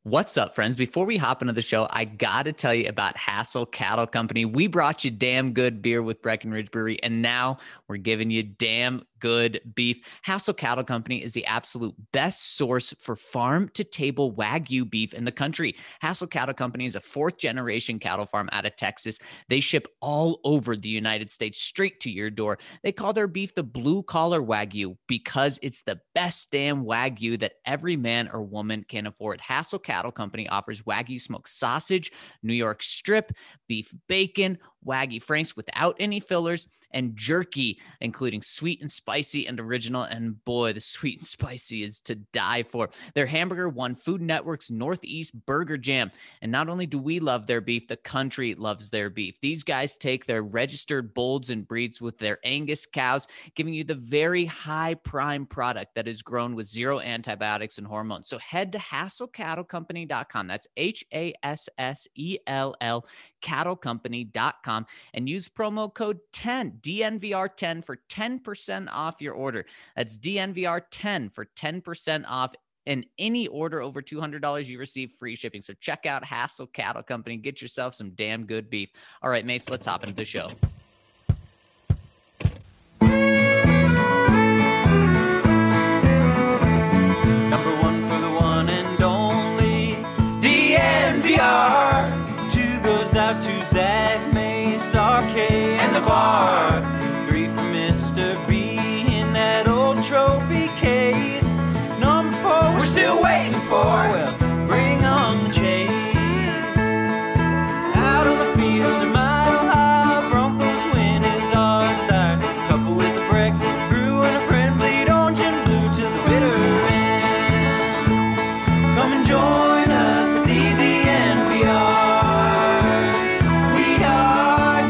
What's up, friends? Before we hop into the show, I got to tell you about Hassel Cattle Company. We brought you damn good beer with Breckenridge Brewery, and now we're giving you damn good beef. Hassel Cattle Company is the absolute best source for farm-to-table Wagyu beef in the country. Hassel Cattle Company is a fourth-generation cattle farm out of Texas. They ship all over the United States straight to your door. They call their beef the blue-collar Wagyu because it's the best damn Wagyu that every man or woman can afford. Hassel Cattle Company offers Wagyu smoked sausage, New York strip, beef bacon, Wagyu Franks without any fillers, and jerky, including sweet and spicy and original. And boy, the sweet and spicy is to die for. Their hamburger won Food Network's Northeast Burger Jam. And not only do we love their beef, the country loves their beef. These guys take their registered bolds and breeds with their Angus cows, giving you the very high prime product that is grown with zero antibiotics and hormones. So head to HassellCattleCompany.com. That's HASSELL cattlecompany.com and use promo code 10 DNVR10 for 10% off your order. That's DNVR10 for 10% off. In any order over $200, you receive free shipping. So check out Hassel Cattle Company. Get yourself some damn good beef. All right, Mace, let's hop into the show. Number one for the one and only DNVR. Two goes out to Zach, Mace, RK, and the bar. Three for Mr. B in that old trophy case. Number four, we're still waiting for. Well, bring on the chase. Out on the field, a mile high, Broncos win is our desire. Couple with a break, brew and a friend, bleed orange and blue to the bitter end. Come and join us at the DNVR. We are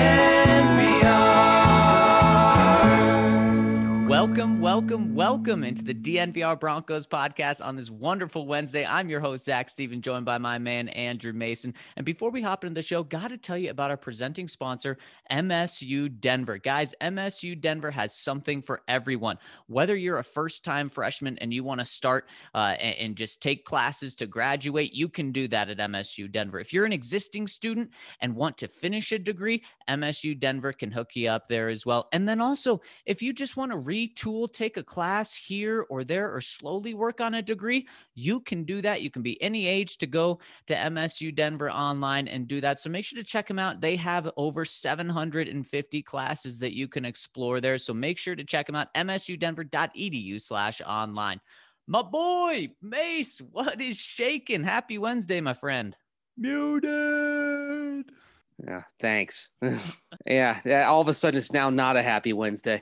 DNVR. Welcome into the DNVR Broncos podcast on this wonderful Wednesday. I'm your host, Zach Steven, joined by my man, Andrew Mason. And before we hop into the show, got to tell you about our presenting sponsor, MSU Denver. Guys, MSU Denver has something for everyone. Whether you're a first-time freshman and you want to start and just take classes to graduate, you can do that at MSU Denver. If you're an existing student and want to finish a degree, MSU Denver can hook you up there as well. And then also, if you just want to retool, take a class here or there, or slowly work on a degree, you can do that. You can be any age to go to MSU Denver online and do that. So make sure to check them out. They have over 750 classes that you can explore there. So make sure to check them out, msudenver.edu/online. My boy, Mace, what is shaking? Happy Wednesday, my friend. Muted. Yeah, thanks. Yeah, all of a sudden it's now not a happy Wednesday.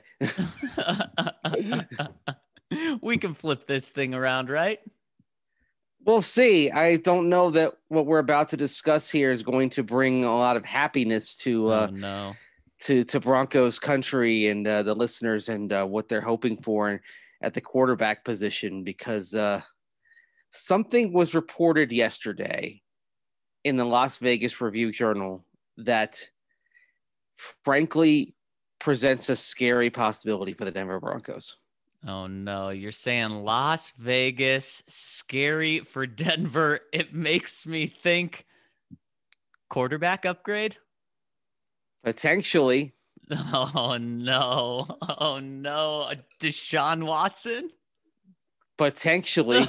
We can flip this thing around, right? We'll see. I don't know that what we're about to discuss here is going to bring a lot of happiness to to Broncos country and the listeners and what they're hoping for at the quarterback position, because something was reported yesterday in the Las Vegas Review-Journal that frankly presents a scary possibility for the Denver Broncos. Oh no, you're saying Las Vegas, scary for Denver. It makes me think quarterback upgrade? Potentially. Oh no. Deshaun Watson? Potentially.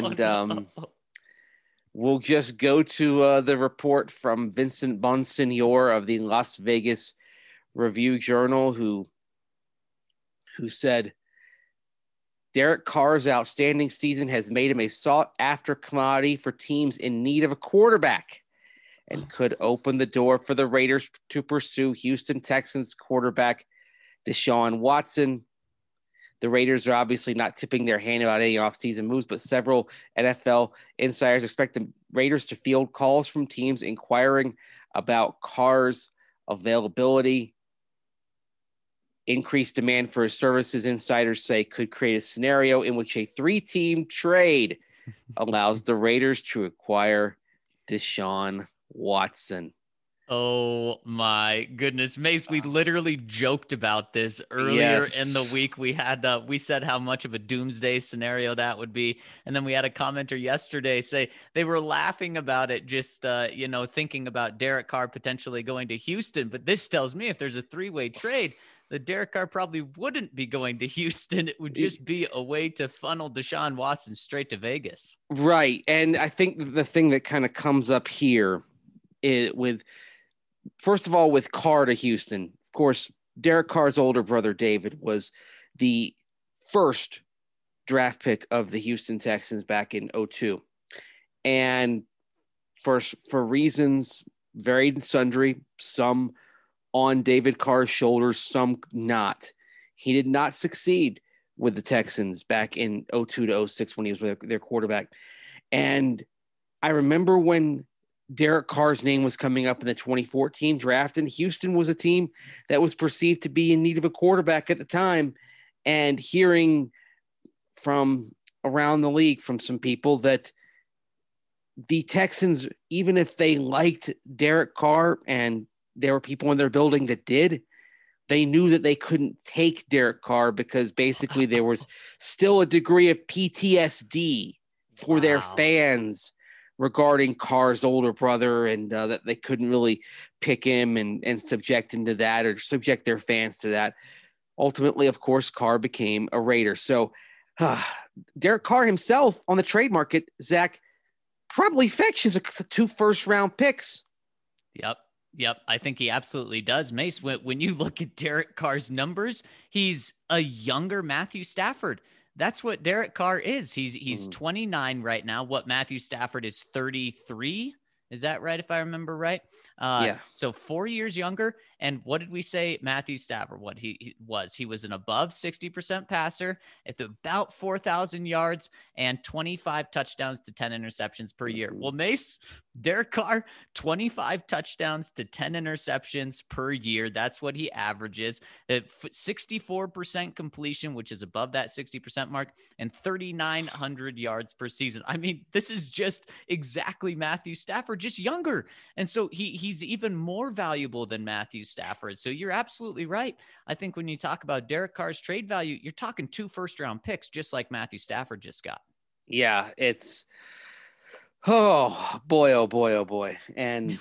We'll just go to the report from Vincent Bonsignore of the Las Vegas Review-Journal, who said, Derek Carr's outstanding season has made him a sought-after commodity for teams in need of a quarterback and could open the door for the Raiders to pursue Houston Texans quarterback Deshaun Watson. The Raiders are obviously not tipping their hand about any offseason moves, but several NFL insiders expect the Raiders to field calls from teams inquiring about Carr's availability. Increased demand for his services, insiders say, could create a scenario in which a three-team trade allows the Raiders to acquire Deshaun Watson. Oh my goodness, Mace, we literally joked about this earlier in the Yes. week. We said how much of a doomsday scenario that would be. And then we had a commenter yesterday say they were laughing about it, just, thinking about Derek Carr potentially going to Houston. But this tells me if there's a three-way trade, that Derek Carr probably wouldn't be going to Houston. It would just be a way to funnel Deshaun Watson straight to Vegas. Right. And I think the thing that kind of comes up here first of all, with Carr to Houston, of course, Derek Carr's older brother, David, was the first draft pick of the Houston Texans back in 2002. And for reasons varied and sundry, some on David Carr's shoulders, some not, he did not succeed with the Texans back in 2002 to 2006 when he was their quarterback. And I remember when Derek Carr's name was coming up in the 2014 draft, and Houston was a team that was perceived to be in need of a quarterback at the time. And hearing from around the league from some people that the Texans, even if they liked Derek Carr, and there were people in their building that did, they knew that they couldn't take Derek Carr because basically there was still a degree of PTSD for their fans regarding Carr's older brother, and that they couldn't really pick him and subject him to that, or subject their fans to that. Ultimately, of course, Carr became a Raider. So Derek Carr himself on the trade market, Zach, probably fetches 2 first-round picks. Yep. I think he absolutely does. Mace, when you look at Derek Carr's numbers, he's a younger Matthew Stafford. That's what Derek Carr is. He's 29 right now. What Matthew Stafford is 33. Is that right? If I remember right. Yeah. So 4 years younger. And what did we say? Matthew Stafford, what he was an above 60% passer at about 4,000 yards and 25 touchdowns to 10 interceptions per year. Well, Mace, Derek Carr, 25 touchdowns to 10 interceptions per year. That's what he averages. 64% completion, which is above that 60% mark, and 3,900 yards per season. I mean, this is just exactly Matthew Stafford, just younger. And so he's even more valuable than Matthew Stafford. So you're absolutely right. I think when you talk about Derek Carr's trade value, you're talking 2 first-round picks, just like Matthew Stafford just got. Yeah, it's oh boy. And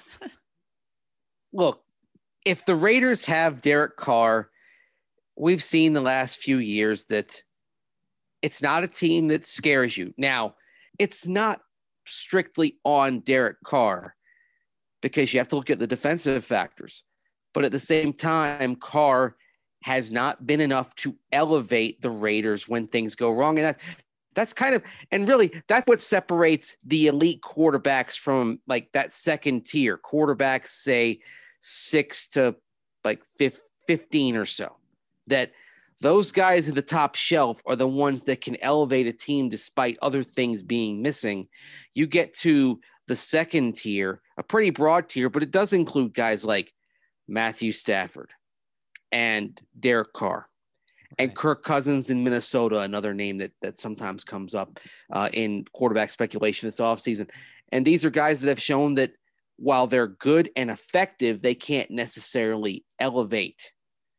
look, if the Raiders have Derek Carr, we've seen the last few years that it's not a team that scares you. Now, it's not strictly on Derek Carr because you have to look at the defensive factors. But at the same time, Carr has not been enough to elevate the Raiders when things go wrong. And that's kind of, and really, that's what separates the elite quarterbacks from like that second tier quarterbacks, say 6 to like 15 or so. That those guys at the top shelf are the ones that can elevate a team despite other things being missing. You get to the second tier, a pretty broad tier, but it does include guys like Matthew Stafford and Derek Carr. Right. And Kirk Cousins in Minnesota, another name that sometimes comes up in quarterback speculation this offseason. And these are guys that have shown that while they're good and effective, they can't necessarily elevate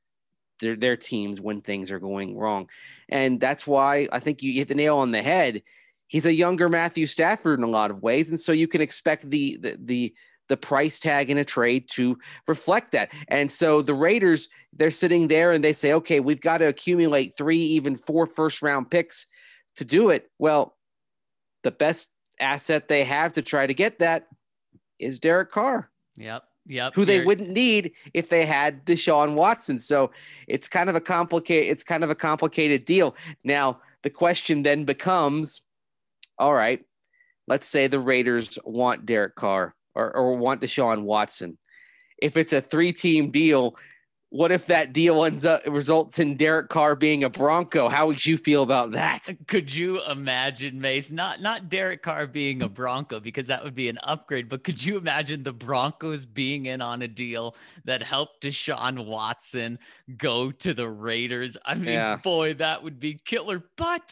their teams when things are going wrong. And that's why I think you hit the nail on the head. He's a younger Matthew Stafford in a lot of ways. And so you can expect the price tag in a trade to reflect that. And so the Raiders, they're sitting there and they say, okay, we've got to accumulate 3, even 4 first-round picks to do it. Well, the best asset they have to try to get that is Derek Carr. Yep. Who they wouldn't need if they had Deshaun Watson. So it's kind of a complicated deal. Now, the question then becomes, all right, let's say the Raiders want Derek Carr or want Deshaun Watson. If it's a 3-team deal, what if that deal results in Derek Carr being a Bronco? How would you feel about that? Could you imagine, Mace? Not Derek Carr being a Bronco, because that would be an upgrade, but could you imagine the Broncos being in on a deal that helped Deshaun Watson go to the Raiders? I mean, boy, that would be killer. But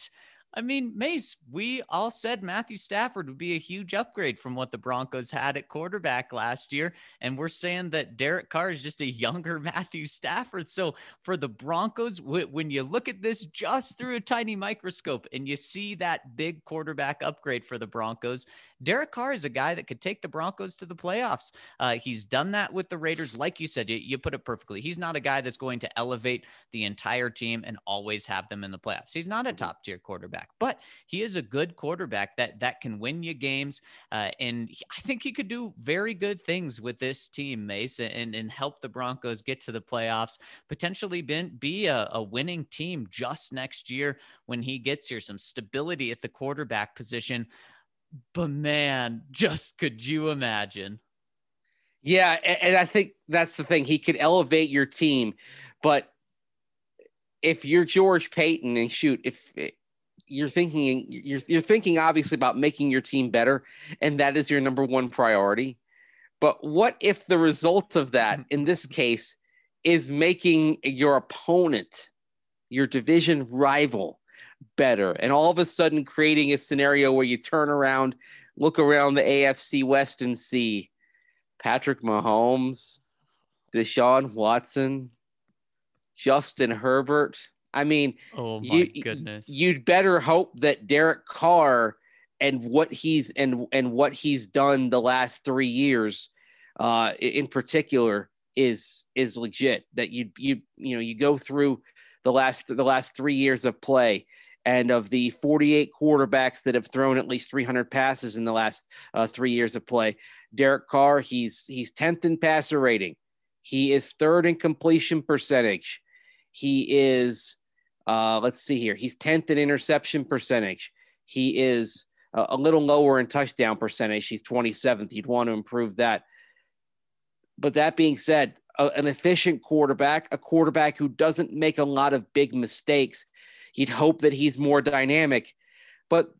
I mean, Mace, we all said Matthew Stafford would be a huge upgrade from what the Broncos had at quarterback last year. And we're saying that Derek Carr is just a younger Matthew Stafford. So for the Broncos, when you look at this just through a tiny microscope and you see that big quarterback upgrade for the Broncos, Derek Carr is a guy that could take the Broncos to the playoffs. He's done that with the Raiders. Like you said, you put it perfectly. He's not a guy that's going to elevate the entire team and always have them in the playoffs. He's not a top tier quarterback, but he is a good quarterback that can win you games. And I think he could do very good things with this team, Mace, and help the Broncos get to the playoffs, potentially be a winning team just next year when he gets here, some stability at the quarterback position. But man, just could you imagine? Yeah, and I think that's the thing. He could elevate your team, but if you're George Payton and if you're thinking obviously about making your team better, and that is your number one priority. But what if the result of that, in this case, is making your opponent, your division rival, better, and all of a sudden creating a scenario where you turn around, look around the AFC West and see Patrick Mahomes, Deshaun Watson, Justin Herbert. I mean, oh my goodness, you'd better hope that Derek Carr and what he's done the last 3 years, in particular, is legit. That you go through the last 3 years of play, and of the 48 quarterbacks that have thrown at least 300 passes in the last 3 years of play, Derek Carr, he's 10th in passer rating. He is 3rd in completion percentage. He is, let's see here. He's 10th in interception percentage. He is a little lower in touchdown percentage. He's 27th. You'd want to improve that. But that being said, an efficient quarterback, a quarterback who doesn't make a lot of big mistakes. You'd hope that he's more dynamic, but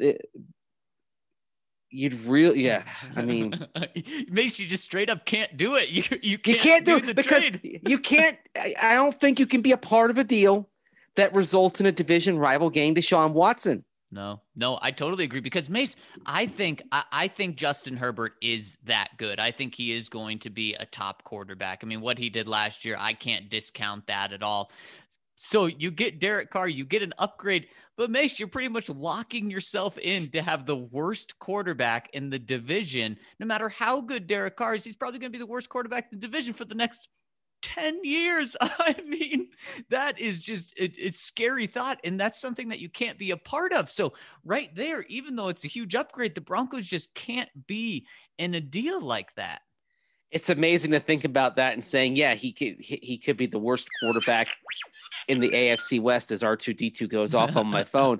you'd really, yeah. I mean, Mace, you just straight up can't do it. You can't do it because trade. You can't. I don't think you can be a part of a deal that results in a division rival getting Deshaun Watson. No, I totally agree because Mace, I think Justin Herbert is that good. I think he is going to be a top quarterback. I mean, what he did last year, I can't discount that at all. So you get Derek Carr, you get an upgrade, but Mace, you're pretty much locking yourself in to have the worst quarterback in the division. No matter how good Derek Carr is, he's probably going to be the worst quarterback in the division for the next 10 years. I mean, that is just, it's scary thought. And that's something that you can't be a part of. So right there, even though it's a huge upgrade, the Broncos just can't be in a deal like that. It's amazing to think about that and saying, yeah, he could be the worst quarterback in the AFC West as R2-D2 goes off on my phone.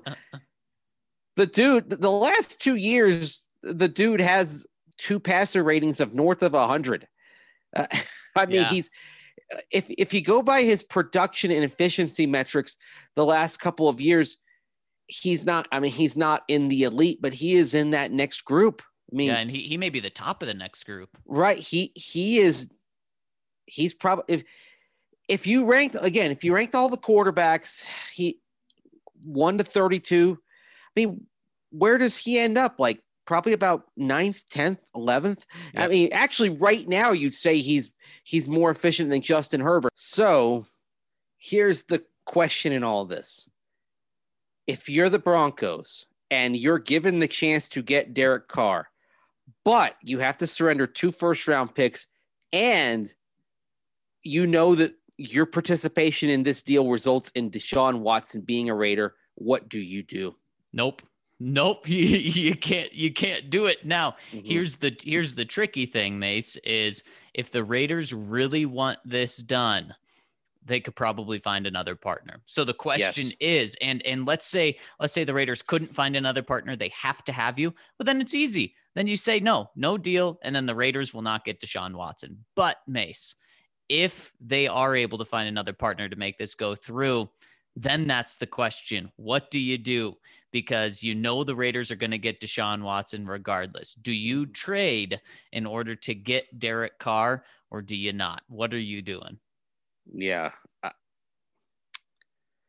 The last 2 years, the dude has 2 passer ratings of north of 100. I mean, yeah. If you go by his production and efficiency metrics, the last couple of years, he's not in the elite, but he is in that next group. I mean, yeah, and he may be the top of the next group. Right. He's probably, if you ranked all the quarterbacks, he 1 to 32. I mean, where does he end up? Like probably about 9th, 10th, 11th. Yep. I mean, actually right now you'd say he's more efficient than Justin Herbert. So here's the question in all this. If you're the Broncos and you're given the chance to get Derek Carr, but you have to surrender 2 first-round picks, and you know that your participation in this deal results in Deshaun Watson being a Raider, what do you do? Nope. You can't do it. Now, here's the tricky thing, Mace, is if the Raiders really want this done, they could probably find another partner. So the question is, and let's say the Raiders couldn't find another partner, they have to have you, but then it's easy. Then you say no deal, and then the Raiders will not get Deshaun Watson. But Mace, if they are able to find another partner to make this go through, then that's the question. What do you do? Because you know the Raiders are going to get Deshaun Watson regardless. Do you trade in order to get Derek Carr, or do you not? What are you doing? Yeah.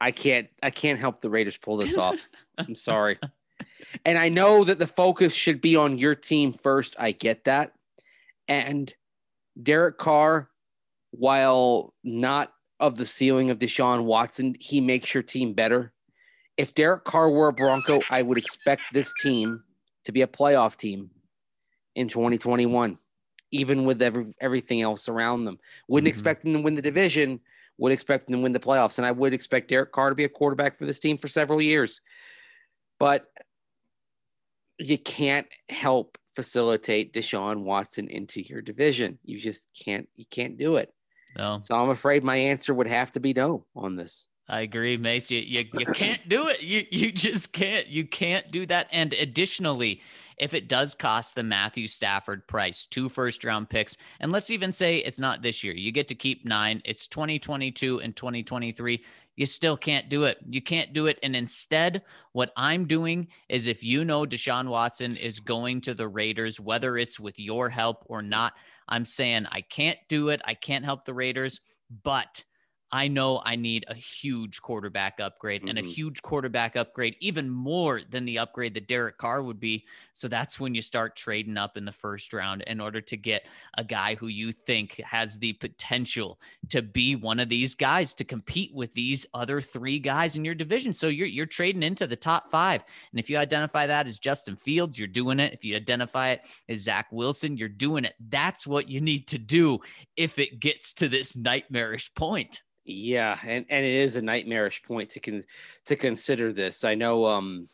I can't help the Raiders pull this off. I'm sorry. And I know that the focus should be on your team first. I get that. And Derek Carr, while not of the ceiling of Deshaun Watson, he makes your team better. If Derek Carr were a Bronco, I would expect this team to be a playoff team in 2021, even with everything else around them. Wouldn't expect them to win the division, would expect them to win the playoffs. And I would expect Derek Carr to be a quarterback for this team for several years. But you can't help facilitate Deshaun Watson into your division. You just can't. You can't do it. No. So I'm afraid my answer would have to be no on this. I agree, Mace. You can't do it. You just can't. You can't do that. And additionally, if it does cost the Matthew Stafford price, 2 first-round picks, and let's even say it's not this year, you get to keep 9. It's 2022 and 2023. You still can't do it. You can't do it. And instead, what I'm doing is, if you know Deshaun Watson is going to the Raiders, whether it's with your help or not, I'm saying I can't do it. I can't help the Raiders, but I know I need a huge quarterback upgrade and a huge quarterback upgrade, even more than the upgrade that Derek Carr would be. So that's when you start trading up in the first round in order to get a guy who you think has the potential to be one of these guys to compete with these other 3 guys in your division. So you're trading into the top 5. And if you identify that as Justin Fields, you're doing it. If you identify it as Zach Wilson, you're doing it. That's what you need to do if it gets to this nightmarish point. Yeah, and it is a nightmarish point to consider this. I know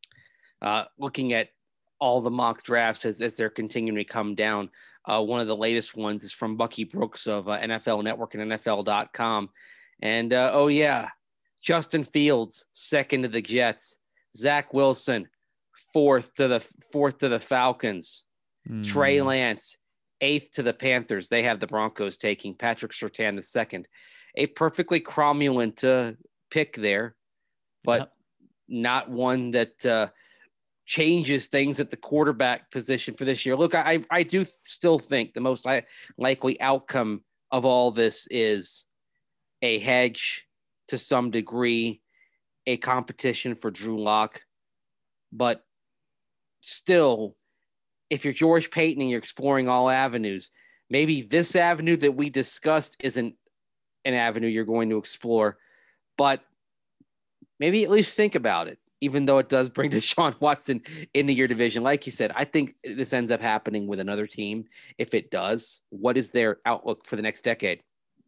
looking at all the mock drafts as they're continuing to come down, one of the latest ones is from Bucky Brooks of NFL Network and NFL.com. And Justin Fields, 2nd to the Jets. Zach Wilson, 4th to the Falcons. Trey Lance, 8th to the Panthers. They have the Broncos taking Patrick Surtain, the 2nd. A perfectly cromulent pick there, but not one that changes things at the quarterback position for this year. Look, I do still think the most likely outcome of all this is a hedge to some degree, a competition for Drew Lock. But still, if you're George Paton and you're exploring all avenues, maybe this avenue that we discussed isn't an avenue you're going to explore, but maybe at least think about it, even though it does bring Deshaun Watson into your division. Like you said, I think this ends up happening with another team. If it does, what is their outlook for the next decade?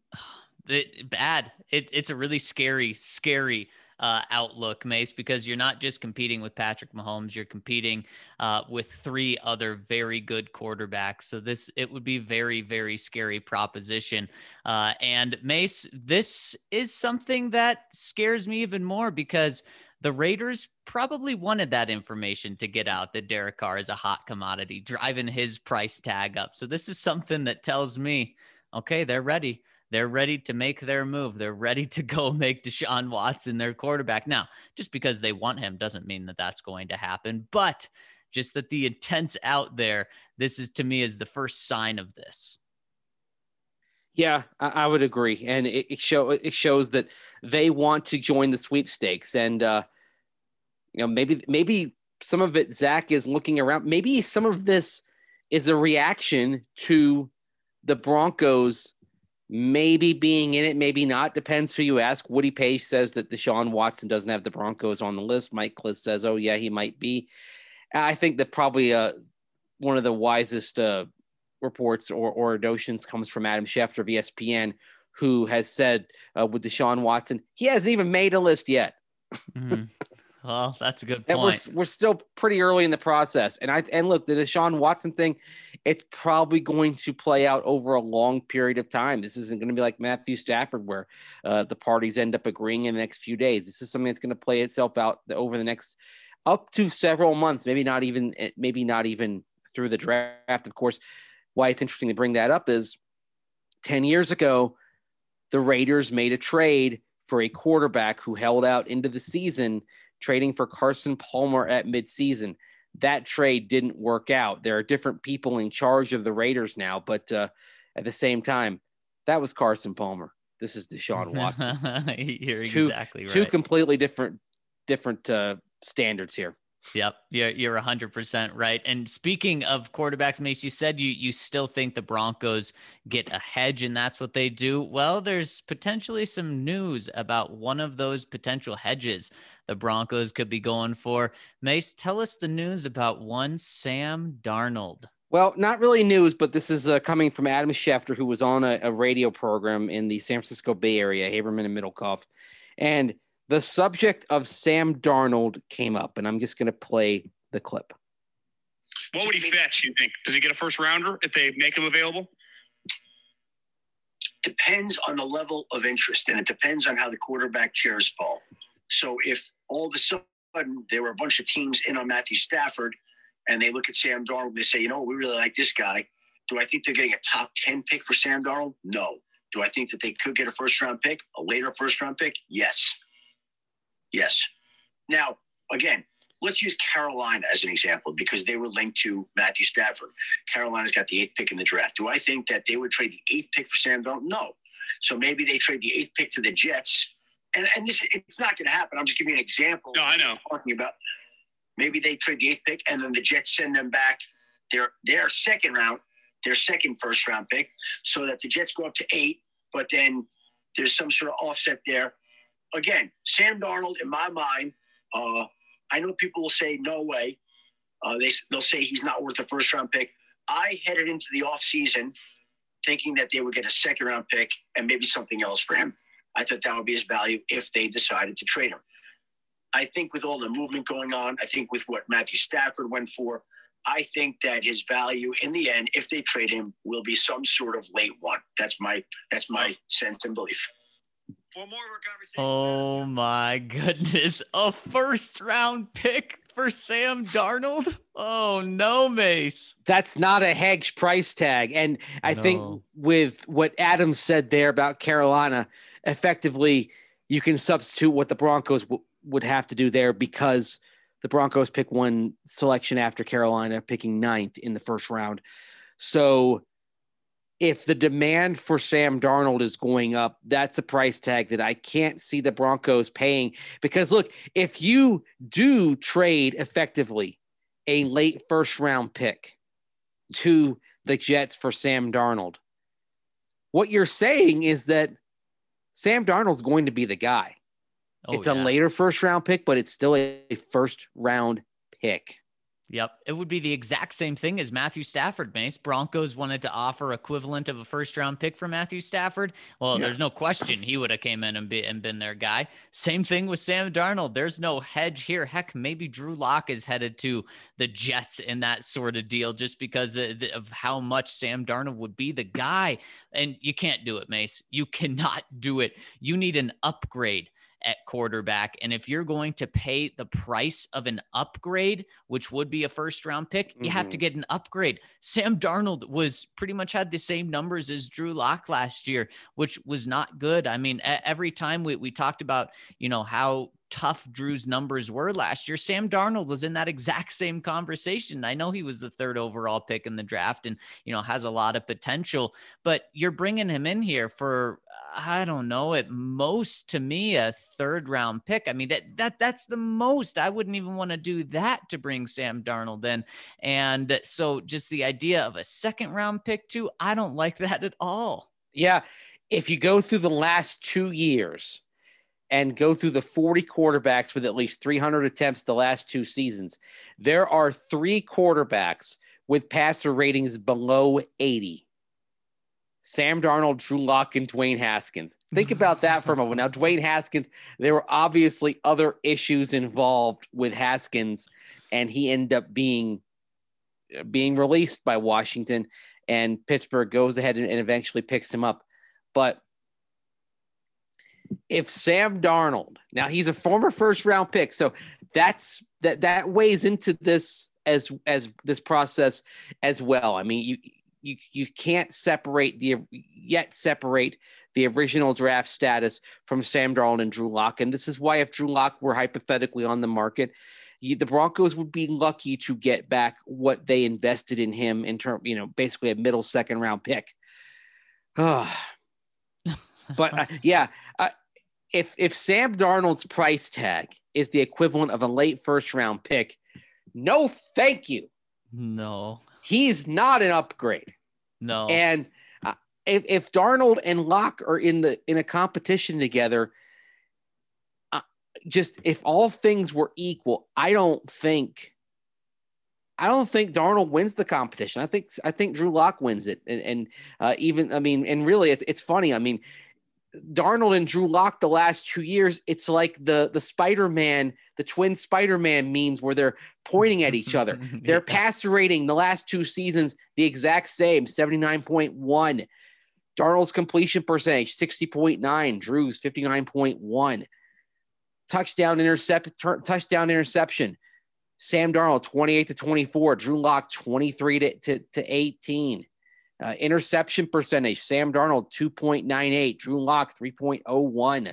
Bad. It's a really scary outlook, Mace, because you're not just competing with Patrick Mahomes, you're competing with 3 other very good quarterbacks. So it would be very, very scary proposition. And Mace, this is something that scares me even more because the Raiders probably wanted that information to get out that Derek Carr is a hot commodity, driving his price tag up. So this is something that tells me, okay, they're ready. They're ready to make their move. They're ready to go make Deshaun Watson their quarterback. Now, just because they want him doesn't mean that that's going to happen, but just that the intent's out there. This is, to me, is the first sign of this. Yeah, I would agree. And it shows that they want to join the sweepstakes. And, maybe some of it, Zach is looking around. Maybe some of this is a reaction to the Broncos maybe being in it, maybe not. Depends who you ask. Woody Page says that Deshaun Watson doesn't have the Broncos on the list. Mike Klis says, oh, yeah, he might be. I think that probably one of the wisest reports or notions comes from Adam Schefter of ESPN, who has said with Deshaun Watson, he hasn't even made a list yet. Mm-hmm. Well, that's a good point. We're still pretty early in the process. And look, the Deshaun Watson thing, it's probably going to play out over a long period of time. This isn't going to be like Matthew Stafford, where the parties end up agreeing in the next few days. This is something that's going to play itself out over the next up to several months, maybe not even through the draft. Of course, why it's interesting to bring that up is 10 years ago, the Raiders made a trade for a quarterback who held out into the season, trading for Carson Palmer at midseason. That trade didn't work out. There are different people in charge of the Raiders now, but at the same time, that was Carson Palmer. This is Deshaun Watson. You're exactly right. Two completely different standards here. Yep, you're 100% right. And speaking of quarterbacks, Mace, you said you still think the Broncos get a hedge, and that's what they do. Well, there's potentially some news about one of those potential hedges the Broncos could be going for. Mace, tell us the news about one Sam Darnold. Well, not really news, but this is coming from Adam Schefter, who was on a radio program in the San Francisco Bay Area, Haberman and Middlecoff. And the subject of Sam Darnold came up, and I'm just going to play the clip. What would he fetch, you think? Does he get a first rounder if they make him available? Depends on the level of interest, and it depends on how the quarterback chairs fall. So if all of a sudden there were a bunch of teams in on Matthew Stafford, and they look at Sam Darnold, they say, we really like this guy. Do I think they're getting a top 10 pick for Sam Darnold? No. Do I think that they could get a first-round pick, a later first-round pick? Yes. Yes. Now, again, let's use Carolina as an example because they were linked to Matthew Stafford. Carolina's got the 8th pick in the draft. Do I think that they would trade the 8th pick for Sam Darnold? No. So maybe they trade the 8th pick to the Jets. And this, it's not going to happen. I'm just giving you an example. No, I know. Talking about maybe they trade the 8th pick and then the Jets send them back their second first-round pick so that the Jets go up to 8, but then there's some sort of offset there. Again, Sam Darnold, in my mind, I know people will say, no way. They'll say he's not worth a first-round pick. I headed into the offseason thinking that they would get a second-round pick and maybe something else for him. I thought that would be his value if they decided to trade him. I think with all the movement going on, I think with what Matthew Stafford went for, I think that his value in the end, if they trade him, will be some sort of late one. That's my sense and belief. For more of our conversation. Oh my goodness. A first round pick for Sam Darnold? Oh no, Mace. That's not a hedge price tag. And I think with what Adam said there about Carolina, effectively you can substitute what the Broncos would have to do there because the Broncos pick one selection after Carolina picking 9th in the first round. So if the demand for Sam Darnold is going up, that's a price tag that I can't see the Broncos paying. Because look, if you do trade effectively a late first round pick to the Jets for Sam Darnold, what you're saying is that Sam Darnold's going to be the guy. It's a later first round pick, but it's still a first round pick. Yep. It would be the exact same thing as Matthew Stafford, Mace. Broncos wanted to offer equivalent of a first round pick for Matthew Stafford. Well, there's no question he would have came in and been their guy. Same thing with Sam Darnold. There's no hedge here. Heck, maybe Drew Lock is headed to the Jets in that sort of deal just because of how much Sam Darnold would be the guy. And you can't do it, Mace. You cannot do it. You need an upgrade at quarterback. And if you're going to pay the price of an upgrade, which would be a first round pick, you have to get an upgrade. Sam Darnold was pretty much had the same numbers as Drew Lock last year, which was not good. I mean, every time we talked about, how tough Drew's numbers were last year, Sam Darnold was in that exact same conversation. I know he was the 3rd overall pick in the draft and, has a lot of potential, but you're bringing him in here for, I don't know, at most to me, a 3rd round pick. I mean, that's the most. I wouldn't even want to do that to bring Sam Darnold in. And so just the idea of a 2nd round pick too, I don't like that at all. Yeah. If you go through the last 2 years, and go through the 40 quarterbacks with at least 300 attempts the last 2 seasons, there are 3 quarterbacks with passer ratings below 80. Sam Darnold, Drew Lock, and Dwayne Haskins. Think about that for a moment. Now, Dwayne Haskins, there were obviously other issues involved with Haskins, and he ended up being released by Washington, and Pittsburgh goes ahead and eventually picks him up. But if Sam Darnold, now he's a former first round pick, so that weighs into this as this process as well. I mean, you can't separate the original draft status from Sam Darnold and Drew Lock, and this is why if Drew Lock were hypothetically on the market, the Broncos would be lucky to get back what they invested in him in term, basically a middle 2nd round pick. But if Sam Darnold's price tag is the equivalent of a late first round pick, no, thank you. No, he's not an upgrade. No, and if Darnold and Locke are in a competition together, just if all things were equal, I don't think Darnold wins the competition. I think Drew Lock wins it. And really it's funny. I mean, Darnold and Drew Lock the last 2 years, it's like the Spider-Man, the twin Spider-Man memes where they're pointing at each other. Their passer rating the last 2 seasons, the exact same, 79.1. Darnold's completion percentage, 60.9. Drew's 59.1. Touchdown interception. Sam Darnold, 28-24. Drew Lock, 23-18. Interception percentage, Sam Darnold, 2.98. Drew Lock, 3.01.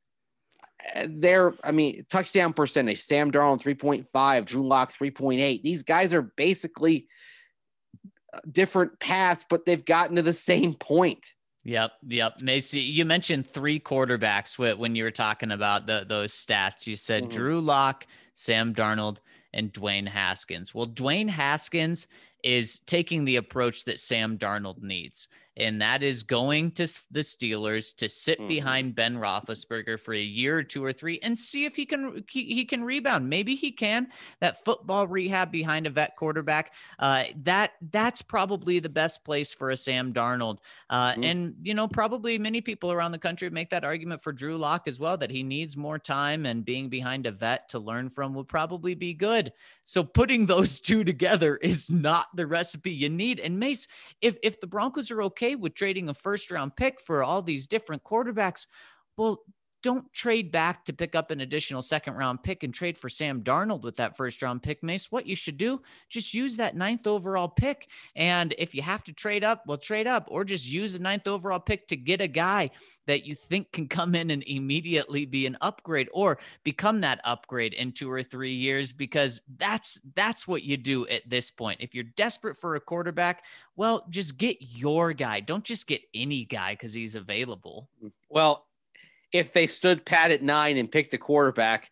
Touchdown percentage, Sam Darnold, 3.5. Drew Lock, 3.8. These guys are basically different paths, but they've gotten to the same point. Yep. Macy, you mentioned 3 quarterbacks when you were talking about those stats. You said Drew Lock, Sam Darnold, and Dwayne Haskins. Well, Dwayne Haskins is taking the approach that Sam Darnold needs, and that is going to the Steelers to sit behind Ben Roethlisberger for a year or 2 or 3 and see if he can rebound. Maybe he can. That football rehab behind a vet quarterback, that's probably the best place for a Sam Darnold. And, probably many people around the country make that argument for Drew Lock as well, that he needs more time, and being behind a vet to learn from would probably be good. So putting those two together is not the recipe you need. And Mace, if the Broncos are okay with trading a first round pick for all these different quarterbacks, well, don't trade back to pick up an additional second round pick and trade for Sam Darnold with that first round pick, Mace. What you should do, just use that 9th overall pick. And if you have to trade up, well, trade up, or just use the 9th overall pick to get a guy that you think can come in and immediately be an upgrade or become that upgrade in 2 or 3 years, because that's what you do at this point. If you're desperate for a quarterback, well, just get your guy. Don't just get any guy because he's available. Well, if they stood pat at 9 and picked a quarterback,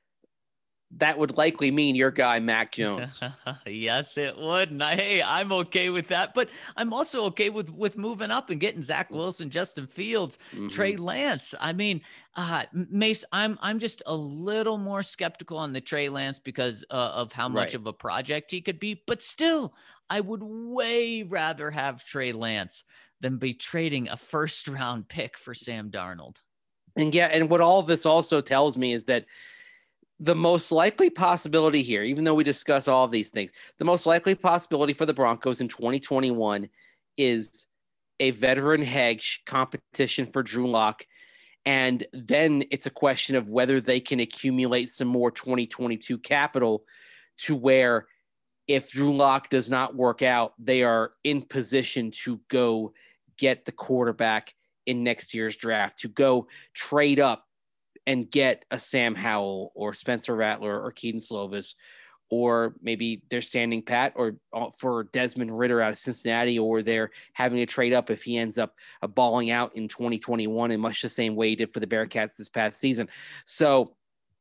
that would likely mean your guy, Mac Jones. Yes, it would. And I'm okay with that. But I'm also okay with moving up and getting Zach Wilson, Justin Fields, Trey Lance. I mean, Mace, I'm just a little more skeptical on the Trey Lance because of how much of a project he could be. But still, I would way rather have Trey Lance than be trading a first-round pick for Sam Darnold. And what all of this also tells me is that the most likely possibility here, even though we discuss all of these things, the most likely possibility for the Broncos in 2021 is a veteran hedge competition for Drew Lock. And then it's a question of whether they can accumulate some more 2022 capital to where if Drew Lock does not work out, they are in position to go get the quarterback in next year's draft, to go trade up and get a Sam Howell or Spencer Rattler or Keaton Slovis, or maybe they're standing pat or for Desmond Ridder out of Cincinnati, or they're having to trade up if he ends up balling out in 2021 in much the same way he did for the Bearcats this past season. So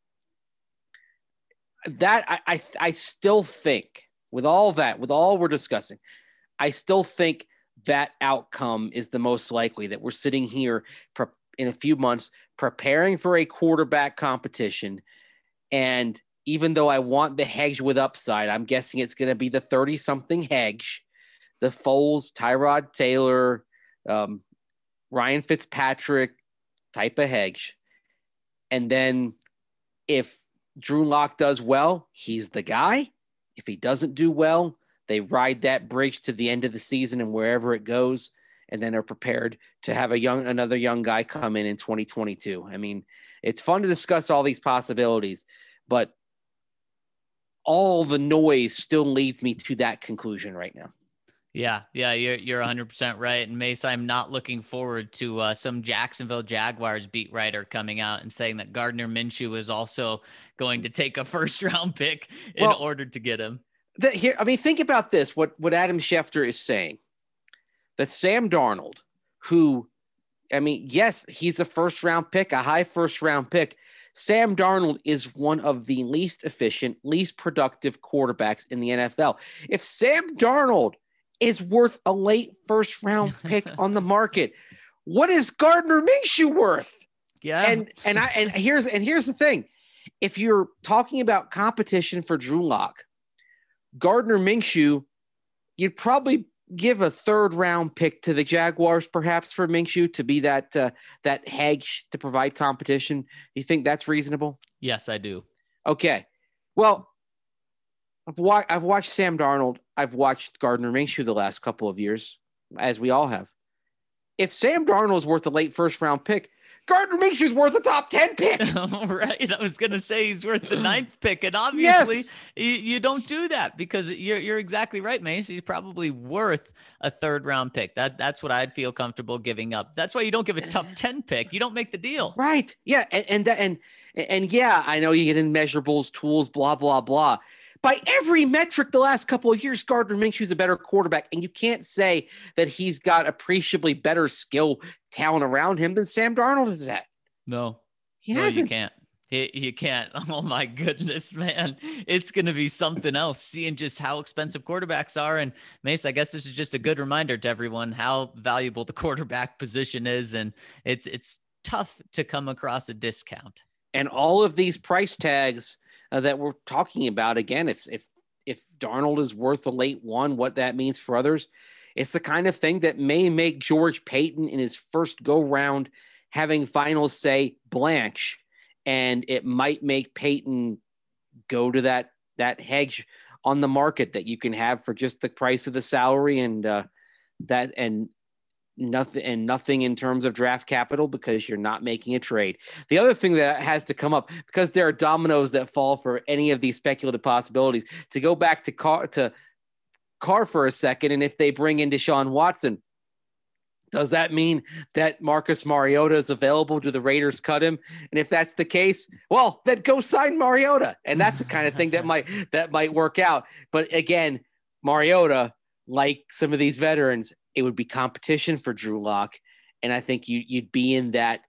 that I still think with all we're discussing, I still think that outcome is the most likely, that we're sitting here in a few months preparing for a quarterback competition. And even though I want the hedge with upside, I'm guessing it's going to be the 30-something hedge, the Foles, Tyrod Taylor, Ryan Fitzpatrick type of hedge. And then if Drew Lock does well, he's the guy. If he doesn't do well, they ride that bridge to the end of the season and wherever it goes, and then are prepared to have another young guy come in 2022. I mean, it's fun to discuss all these possibilities, but all the noise still leads me to that conclusion right now. Yeah, you're 100% right. And Mace, I'm not looking forward to some Jacksonville Jaguars beat writer coming out and saying that Gardner Minshew is also going to take a first-round pick in order to get him. Think about this, what Adam Schefter is saying, that Sam Darnold, who I mean, yes, he's a first round pick, a high first round pick. Sam Darnold is one of the least efficient, least productive quarterbacks in the NFL. If Sam Darnold is worth a late first round pick on the market, what is Gardner Minshew worth? Yeah. And here's the thing. If you're talking about competition for Drew Lock, Gardner Minshew, you'd probably give a third round pick to the Jaguars, perhaps, for Minshew to be that hedge to provide competition. You think that's reasonable? Yes, I do. Okay. Well, I've watched Sam Darnold. I've watched Gardner Minshew the last couple of years, as we all have. If Sam Darnold is worth a late first round pick, Gardner Minshew's worth a top 10 pick. Right. I was going to say he's worth the 9th pick. And obviously yes. you don't do that because you're exactly right, Mace. He's probably worth a 3rd round pick. That's what I'd feel comfortable giving up. That's why you don't give a top 10 pick. You don't make the deal. Right. Yeah. And yeah, I know you get in measurables, tools, blah, blah, blah. By every metric the last couple of years, Gardner Minshew's a better quarterback, and you can't say that he's got appreciably better skill talent around him than Sam Darnold is at. No, he hasn't. You can't. You can't. Oh my goodness, man. It's going to be something else seeing just how expensive quarterbacks are. And Mace, I guess this is just a good reminder to everyone how valuable the quarterback position is. And it's tough to come across a discount. And all of these price tags that we're talking about, again, if Darnold is worth a late one, what that means for others, it's the kind of thing that may make George Paton in his first go round having final say blanche, and it might make Paton go to that hedge on the market that you can have for just the price of the salary and nothing in terms of draft capital because you're not making a trade. The other thing that has to come up, because there are dominoes that fall for any of these speculative possibilities, to go back to Carr for a second, and if they bring in Deshaun Watson, does that mean that Marcus Mariota is available? Do the Raiders cut him? And if that's the case, well, then go sign Mariota. And that's the kind of thing that might work out. But again, Mariota, like some of these veterans, it would be competition for Drew Lock. And I think you'd be in that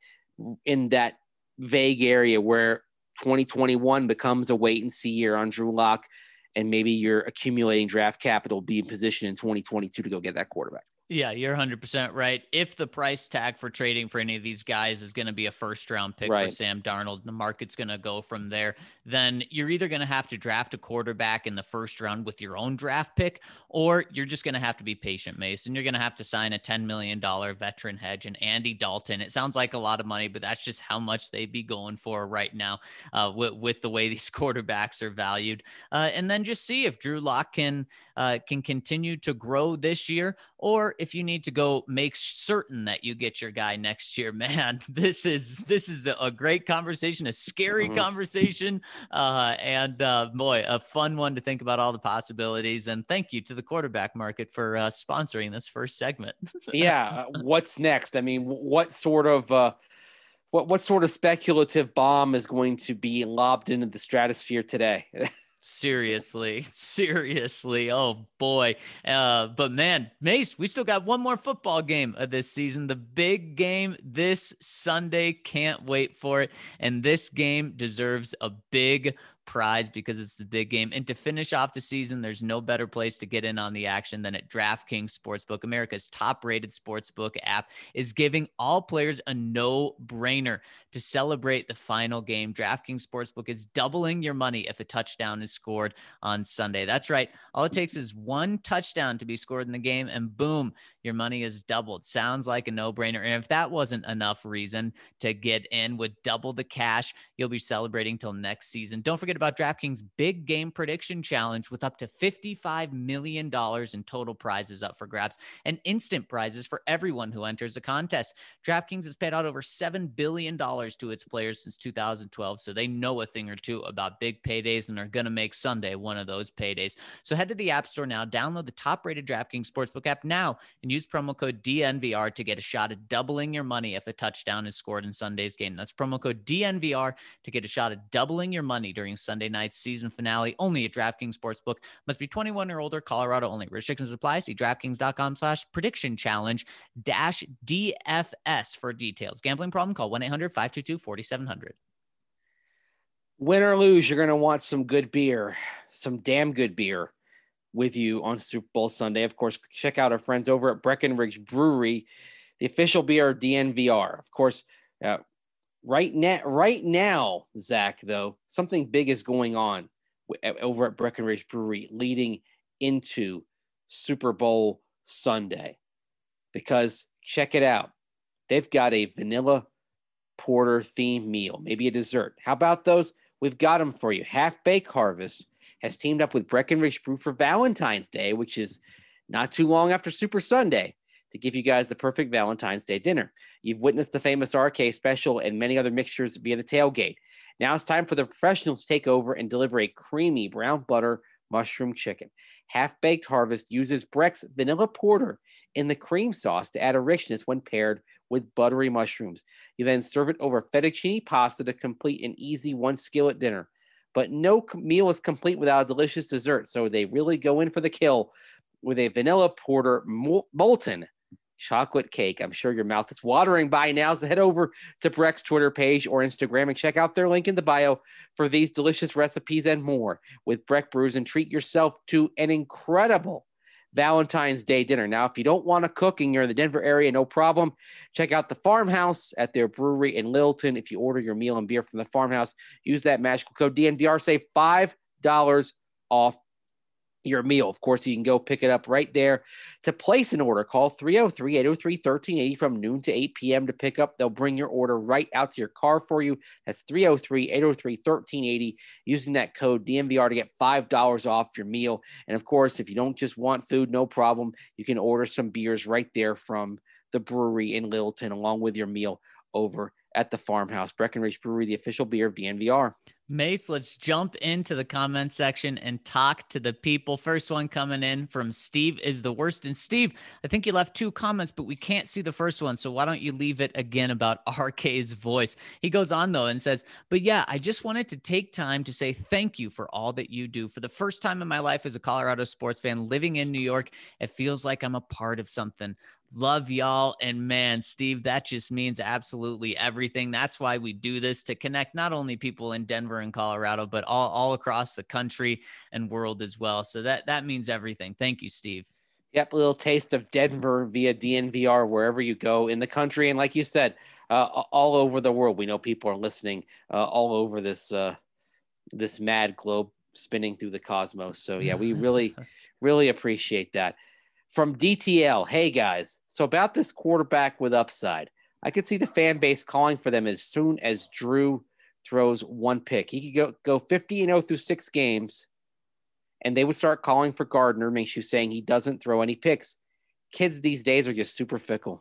vague area where 2021 becomes a wait and see year on Drew Lock. And maybe you're accumulating draft capital, be in position in 2022 to go get that quarterback. Yeah, you're 100% right. If the price tag for trading for any of these guys is going to be a first round pick for Sam Darnold, the market's going to go from there, then you're either going to have to draft a quarterback in the first round with your own draft pick, or you're just going to have to be patient, Mason. You're going to have to sign a $10 million veteran hedge and Andy Dalton. It sounds like a lot of money, but that's just how much they'd be going for right now with the way these quarterbacks are valued. And then just see if Drew Lock can continue to grow this year, or if you need to go make certain that you get your guy next year. Man, this is a great conversation, a scary conversation, and boy, a fun one to think about all the possibilities. And thank you to the quarterback market for sponsoring this first segment. Yeah. What's next? I mean, what sort of speculative bomb is going to be lobbed into the stratosphere today? Seriously. Oh boy. But man, Mace, we still got one more football game of this season. The big game this Sunday. Can't wait for it. And this game deserves a big prize because it's the big game. And to finish off the season, there's no better place to get in on the action than at DraftKings Sportsbook. America's top-rated sportsbook app is giving all players a no-brainer to celebrate the final game. DraftKings Sportsbook is doubling your money if a touchdown is scored on Sunday. That's right. All it takes is one touchdown to be scored in the game, and boom, your money is doubled. Sounds like a no-brainer. And if that wasn't enough reason to get in with double the cash you'll be celebrating till next season, don't forget about DraftKings Big Game Prediction Challenge with up to $55 million in total prizes up for grabs and instant prizes for everyone who enters the contest. DraftKings has paid out over $7 billion to its players since 2012, so they know a thing or two about big paydays and are going to make Sunday one of those paydays. So head to the App Store now, download the top-rated DraftKings Sportsbook app now, and use promo code DNVR to get a shot at doubling your money if a touchdown is scored in Sunday's game. That's promo code DNVR to get a shot at doubling your money during Sunday night's season finale only at DraftKings Sportsbook. Must be 21 or older, Colorado only. Restrictions apply. See DraftKings.com/prediction challenge -DFS for details. Gambling problem? Call 1-800-522-4700. Win or lose, you're going to want some good beer, some damn good beer with you on Super Bowl Sunday. Of course, check out our friends over at Breckenridge Brewery, the official beer of DNVR. Of course, right now, Zach, though, something big is going on over at Breckenridge Brewery leading into Super Bowl Sunday. Because check it out. They've got a vanilla porter themed meal, maybe a dessert. How about those? We've got them for you. Half Baked Harvest has teamed up with Breckenridge Brew for Valentine's Day, which is not too long after Super Sunday, to give you guys the perfect Valentine's Day dinner. You've witnessed the famous RK special and many other mixtures via the tailgate. Now it's time for the professionals to take over and deliver a creamy brown butter mushroom chicken. Half Baked Harvest uses Breck's vanilla porter in the cream sauce to add a richness when paired with buttery mushrooms. You then serve it over fettuccine pasta to complete an easy one skillet dinner. But no meal is complete without a delicious dessert, so they really go in for the kill with a vanilla porter molten chocolate cake. I'm sure your mouth is watering by now, so head over to Breck's Twitter page or Instagram and check out their link in the bio for these delicious recipes and more with Breck Brews, and treat yourself to an incredible Valentine's Day dinner. Now, if you don't want to cook and you're in the Denver area, no problem. Check out the Farmhouse at their brewery in Littleton. If you order your meal and beer from the Farmhouse, use that magical code DNVR, save $5 off your meal. Of course, you can go pick it up right there. To place an order, call 303-803-1380 from noon to 8 p.m. to pick up. They'll bring your order right out to your car for you. That's 303-803-1380 using that code DNVR to get $5 off your meal. And of course, if you don't just want food, no problem. You can order some beers right there from the brewery in Littleton along with your meal over at the Farmhouse. Breckenridge Brewery, the official beer of DNVR. Mace, let's jump into the comment section and talk to the people. First one coming in from Steve is the worst. And Steve, I think you left 2 comments, but we can't see the first one. So why don't you leave it again about RK's voice? He goes on, though, and says, but yeah, I just wanted to take time to say thank you for all that you do. For the first time in my life as a Colorado sports fan living in New York, it feels like I'm a part of something. Love y'all. And man, Steve, that just means absolutely everything. That's why we do this, to connect not only people in Denver and Colorado, but all across the country and world as well. So that means everything. Thank you, Steve. Yep. A little taste of Denver via DNVR, wherever you go in the country. And like you said, all over the world, we know people are listening all over this mad globe spinning through the cosmos. So yeah, we really, really appreciate that. From DTL, hey guys, so about this quarterback with upside, I could see the fan base calling for them as soon as Drew throws one pick. He could go 50-0 through 6 games, and they would start calling for Gardner, Minshew, saying he doesn't throw any picks. Kids these days are just super fickle.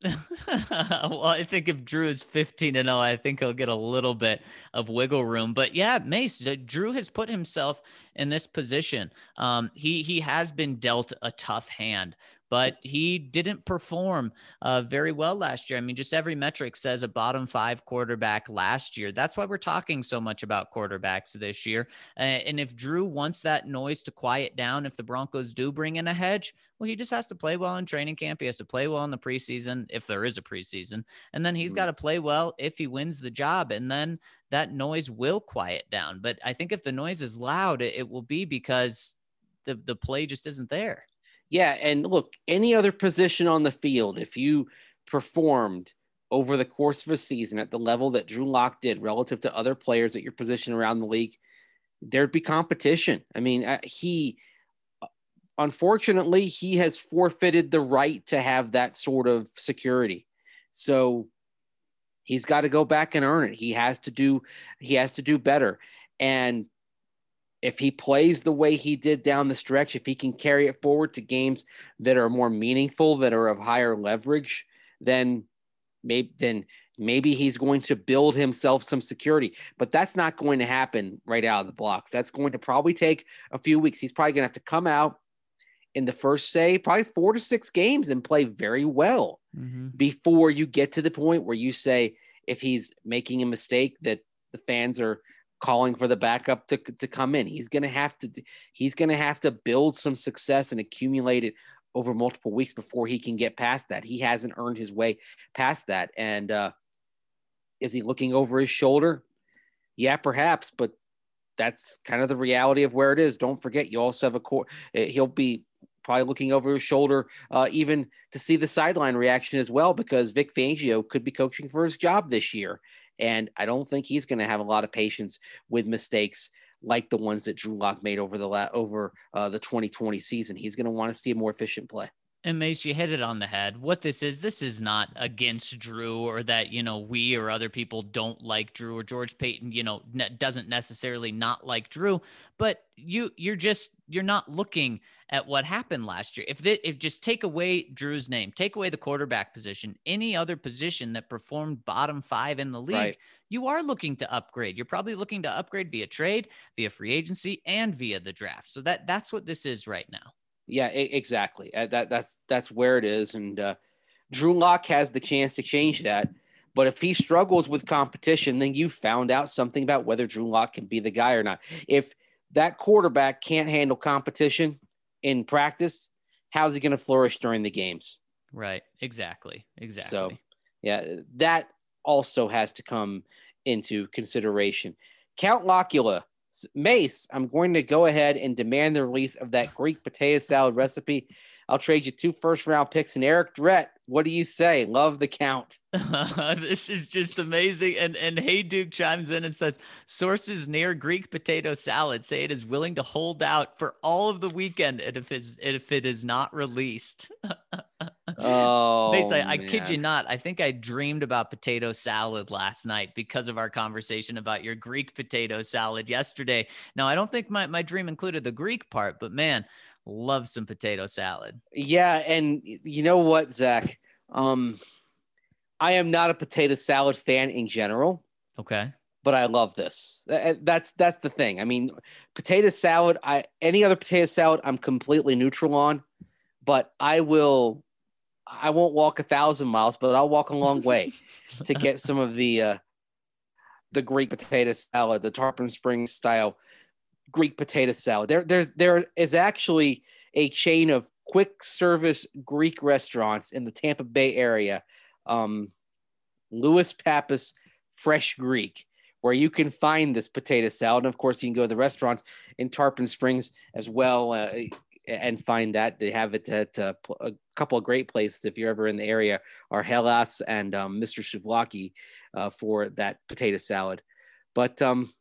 Well, I think if Drew is 15-0, I think he'll get a little bit of wiggle room. But yeah, Mace, Drew has put himself in this position. He has been dealt a tough hand, but he didn't perform very well last year. I mean, just every metric says a bottom 5 quarterback last year. That's why we're talking so much about quarterbacks this year. And if Drew wants that noise to quiet down, if the Broncos do bring in a hedge, well, he just has to play well in training camp. He has to play well in the preseason, if there is a preseason. And then he's got to play well if he wins the job. And then that noise will quiet down. But I think if the noise is loud, it will be because the play just isn't there. Yeah, and look, any other position on the field, if you performed over the course of a season at the level that Drew Lock did relative to other players at your position around the league, there'd be competition. I mean, unfortunately, he has forfeited the right to have that sort of security. So he's got to go back and earn it. He has to do better. And if he plays the way he did down the stretch, if he can carry it forward to games that are more meaningful, that are of higher leverage, then maybe he's going to build himself some security. But that's not going to happen right out of the blocks. That's going to probably take a few weeks. He's probably going to have to come out in the first, probably 4 to 6 games and play very well before you get to the point where you say, if he's making a mistake that the fans are calling for the backup to come in. He's going to have to build some success and accumulate it over multiple weeks before he can get past that. He hasn't earned his way past that. And is he looking over his shoulder? Yeah, perhaps, but that's kind of the reality of where it is. Don't forget, you also have he'll be probably looking over his shoulder, even to see the sideline reaction as well, because Vic Fangio could be coaching for his job this year. And I don't think he's going to have a lot of patience with mistakes like the ones that Drew Lock made over the 2020 season. He's going to want to see a more efficient play. And Mace, you hit it on the head. What this is not against Drew, or that, we or other people don't like Drew, or George Payton, doesn't necessarily not like Drew, but you're not looking at what happened last year. If just take away Drew's name, take away the quarterback position, any other position that performed bottom 5 in the league, right, you are looking to upgrade. You're probably looking to upgrade via trade, via free agency, and via the draft. So that's what this is right now. Yeah, exactly. That's where it is. And Drew Lock has the chance to change that. But if he struggles with competition, then you found out something about whether Drew Lock can be the guy or not. If that quarterback can't handle competition in practice, how's he going to flourish during the games? Right. Exactly. So, yeah, that also has to come into consideration. Count Locula. Mace, I'm going to go ahead and demand the release of that Greek potato salad recipe. I'll trade you 2 first-round picks. And Eric Drett, what do you say? Love the count. This is just amazing. And Hey Duke chimes in and says, sources near Greek potato salad say it is willing to hold out for all of the weekend if it is not released. Oh, Mace, I kid you not. I think I dreamed about potato salad last night because of our conversation about your Greek potato salad yesterday. Now, I don't think my dream included the Greek part, but man, love some potato salad. Yeah. And you know what, Zach? I am not a potato salad fan in general. Okay. But I love this. That's the thing. I mean, potato salad, any other potato salad, I'm completely neutral on, but I won't walk 1,000 miles, but I'll walk a long way to get some of the Greek potato salad, the Tarpon Springs style Greek potato salad. There is actually a chain of quick service Greek restaurants in the Tampa Bay area, Louis Pappas Fresh Greek, where you can find this potato salad. And of course, you can go to the restaurants in Tarpon Springs as well and find that. They have it at a couple of great places if you're ever in the area, are Hellas and Mr. Souvlaki for that potato salad. But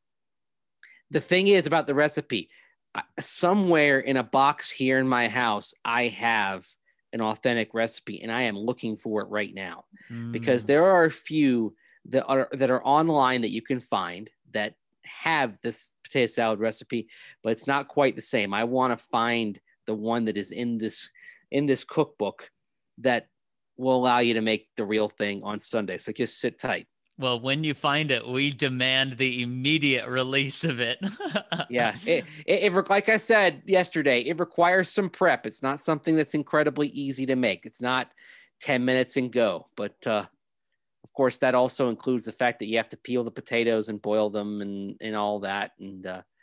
the thing is about the recipe, somewhere in a box here in my house, I have an authentic recipe, and I am looking for it right now because there are a few that are online that you can find that have this potato salad recipe, but it's not quite the same. I want to find the one that is in this cookbook that will allow you to make the real thing on Sunday. So just sit tight. Well, when you find it, we demand the immediate release of it. Yeah. It, like I said yesterday, it requires some prep. It's not something that's incredibly easy to make. It's not 10 minutes and go. But of course, that also includes the fact that you have to peel the potatoes and boil them and all that. And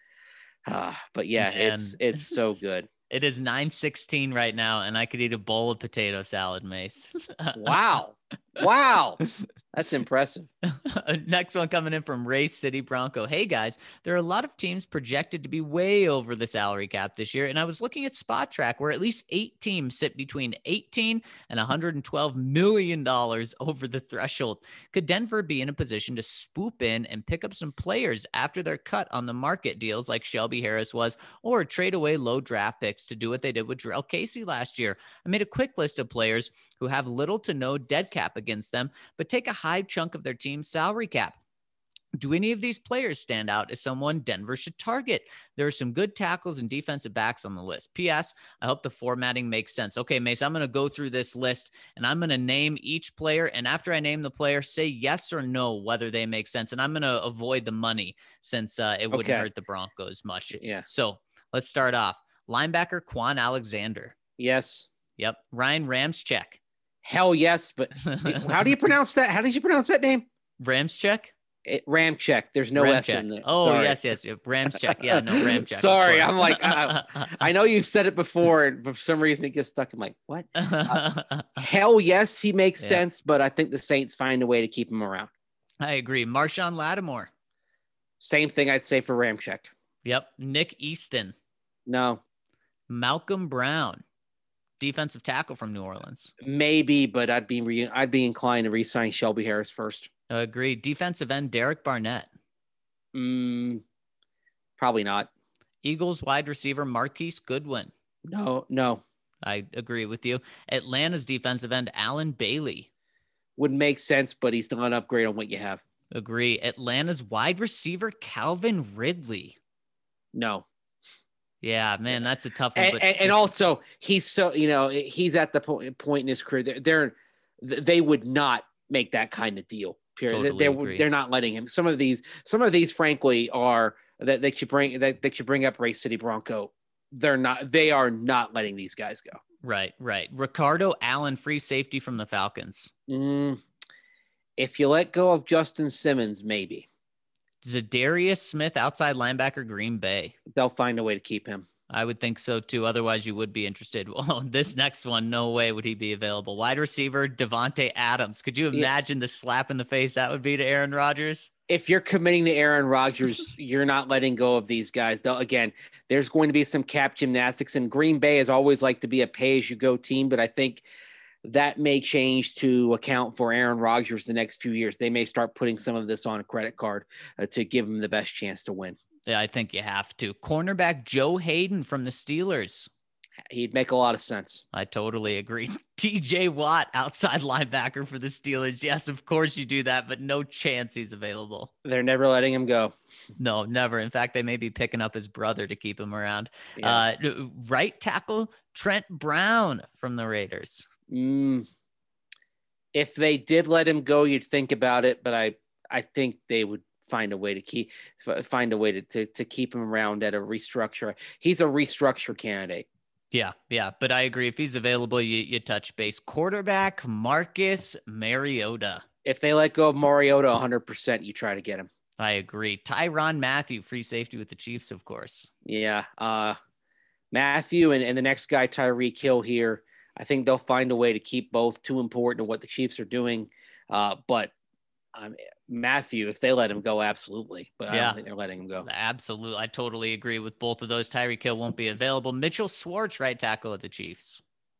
but yeah, man, it's so good. It is 9:16 right now, and I could eat a bowl of potato salad, Mace. Wow. That's impressive. Next one coming in from Ray City Bronco. Hey guys, there are a lot of teams projected to be way over the salary cap this year. And I was looking at Spot Track where at least 8 teams sit between $18 and $112 million over the threshold. Could Denver be in a position to swoop in and pick up some players after their cut on the market deals like Shelby Harris was, or trade away low draft picks to do what they did with Jarrell Casey last year? I made a quick list of players who have little to no dead cap against them, but take a high chunk of their team's salary cap. Do any of these players stand out as someone Denver should target? There are some good tackles and defensive backs on the list. P.S. I hope the formatting makes sense. Okay, Mace, I'm going to go through this list and I'm going to name each player. And after I name the player, say yes or no, whether they make sense. And I'm going to avoid the money since it wouldn't hurt the Broncos much. Yeah. So let's start off. Linebacker Quan Alexander. Yes. Yep. Ryan Ramczyk. Hell yes, but how do you pronounce that? How did you pronounce that name? Ramczyk. Ramczyk. There's no S in there. Oh, Sorry. yes. Ramczyk. Yeah, no, Ramczyk. Sorry, I'm like, I know you've said it before, and for some reason it gets stuck. I'm like, what? Hell yes, he makes sense, but I think the Saints find a way to keep him around. I agree. Marshawn Lattimore. Same thing I'd say for Ramczyk. Yep. Nick Easton. No. Malcolm Brown. Defensive tackle from New Orleans. Maybe, but I'd be inclined to re-sign Shelby Harris first. Agreed. Defensive end Derek Barnett. Probably not. Eagles wide receiver Marquise Goodwin. No. I agree with you. Atlanta's defensive end Alan Bailey. Would make sense, but he's still an upgrade on what you have. Agree. Atlanta's wide receiver Calvin Ridley. No. Yeah, man, that's a tough one. And also, he's so, he's at the point in his career. They would not make that kind of deal. Period. Totally they're not letting him. Some of these, frankly, are that they should bring up Race City Bronco. They are not letting these guys go. Right. Ricardo Allen, free safety from the Falcons. If you let go of Justin Simmons, maybe. Zadarius Smith, outside linebacker, Green Bay. They'll find a way to keep him. I would think so too. Otherwise, you would be interested. Well, this next one, no way would he be available. Wide receiver Devontae Adams. Could you imagine the slap in the face that would be to Aaron Rodgers? If you're committing to Aaron Rodgers, you're not letting go of these guys. Though, again, there's going to be some cap gymnastics, and Green Bay has always liked to be a pay-as-you-go team, but I think that may change to account for Aaron Rodgers the next few years. They may start putting some of this on a credit card to give him the best chance to win. Yeah, I think you have to. Cornerback Joe Hayden from the Steelers. He'd make a lot of sense. I totally agree. TJ Watt, outside linebacker for the Steelers. Yes, of course you do that, but no chance he's available. They're never letting him go. No, never. In fact, they may be picking up his brother to keep him around. Yeah. Right tackle Trent Brown from the Raiders. If they did let him go, you'd think about it, but I think they would find a way to keep him around at a restructure. He's a restructure candidate. Yeah. But I agree. If he's available, you touch base. Quarterback Marcus Mariota. If they let go of Mariota 100%, you try to get him. I agree. Tyrann Mathieu, free safety with the Chiefs, of course. Yeah. Matthew and the next guy, Tyreek Hill here. I think they'll find a way to keep both. Too important to what the Chiefs are doing. But Matthew, if they let him go, absolutely. But I don't think they're letting him go. Absolutely. I totally agree with both of those. Tyreek Hill won't be available. Mitchell Schwartz, right tackle of the Chiefs.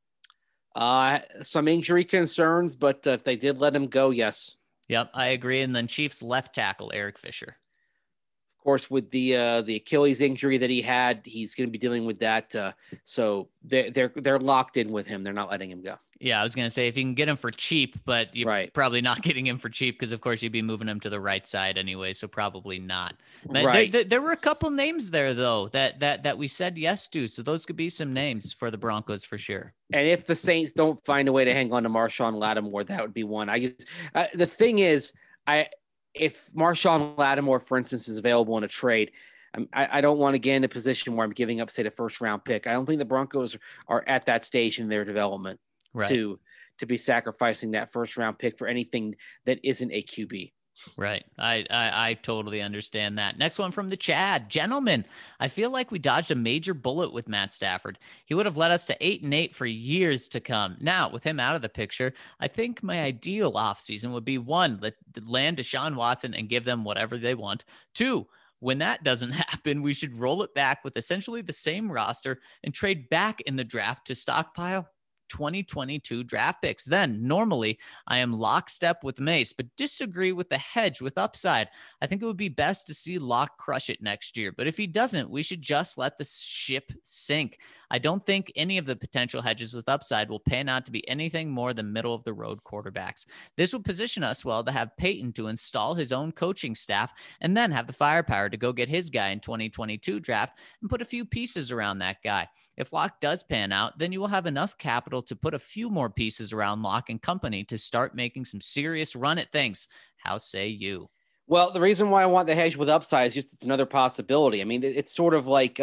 Some injury concerns, but if they did let him go, yes. Yep, I agree. And then Chiefs left tackle, Eric Fisher. Of course, with the Achilles injury that he had, he's going to be dealing with that. So they're locked in with him. They're not letting him go. Yeah, I was going to say if you can get him for cheap, but you're probably not getting him for cheap because, of course, you'd be moving him to the right side anyway. So probably not. Right. There were a couple names there, though, that we said yes to. So those could be some names for the Broncos for sure. And if the Saints don't find a way to hang on to Marshawn Lattimore, that would be one. The thing is, if Marshawn Lattimore, for instance, is available in a trade, I don't want to get in a position where I'm giving up, say, the first-round pick. I don't think the Broncos are at that stage in their development to be sacrificing that first-round pick for anything that isn't a QB. Right. I totally understand that. Next one from the Chad. Gentlemen, I feel like we dodged a major bullet with Matt Stafford. He would have led us to 8-8 for years to come. Now, with him out of the picture, I think my ideal offseason would be 1, land Deshaun Watson and give them whatever they want. 2, when that doesn't happen, we should roll it back with essentially the same roster and trade back in the draft to stockpile 2022 draft picks. Then normally I am lockstep with Mace, but disagree with the hedge with upside. I think it would be best to see Locke crush it next year, but if he doesn't, we should just let the ship sink. I don't think any of the potential hedges with upside will pan out to be anything more than middle of the road quarterbacks. This would position us well to have Peyton to install his own coaching staff and then have the firepower to go get his guy in 2022 draft and put a few pieces around that guy. If Locke does pan out, then you will have enough capital to put a few more pieces around Locke and company to start making some serious run at things. How say you? Well, the reason why I want the hedge with upside is just it's another possibility. I mean, it's sort of like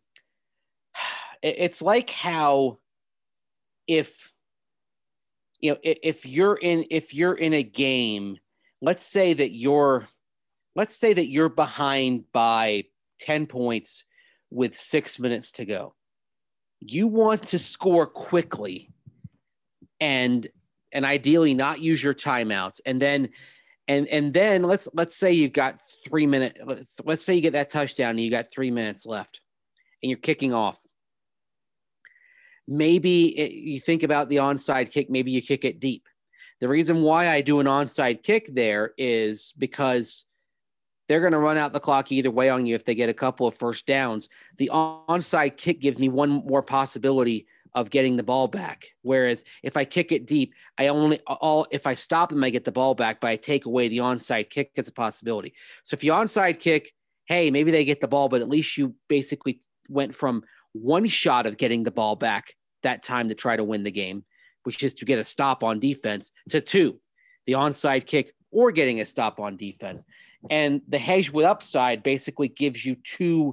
it's like how if you're in a game, let's say that you're let's say that you're behind by 10 points with 6 minutes to go. You want to score quickly and ideally not use your timeouts. And then let's say you've got 3 minutes. Let's say you get that touchdown and you got 3 minutes left and you're kicking off. Maybe you think about the onside kick. Maybe you kick it deep. The reason why I do an onside kick there is because they're going to run out the clock either way on you if they get a couple of first downs. The onside kick gives me one more possibility of getting the ball back. Whereas if I kick it deep, if I stop them, I get the ball back, but I take away the onside kick as a possibility. So if you onside kick, hey, maybe they get the ball, but at least you basically went from one shot of getting the ball back that time to try to win the game, which is to get a stop on defense, to 2, the onside kick or getting a stop on defense. And the hedge with upside basically gives you 2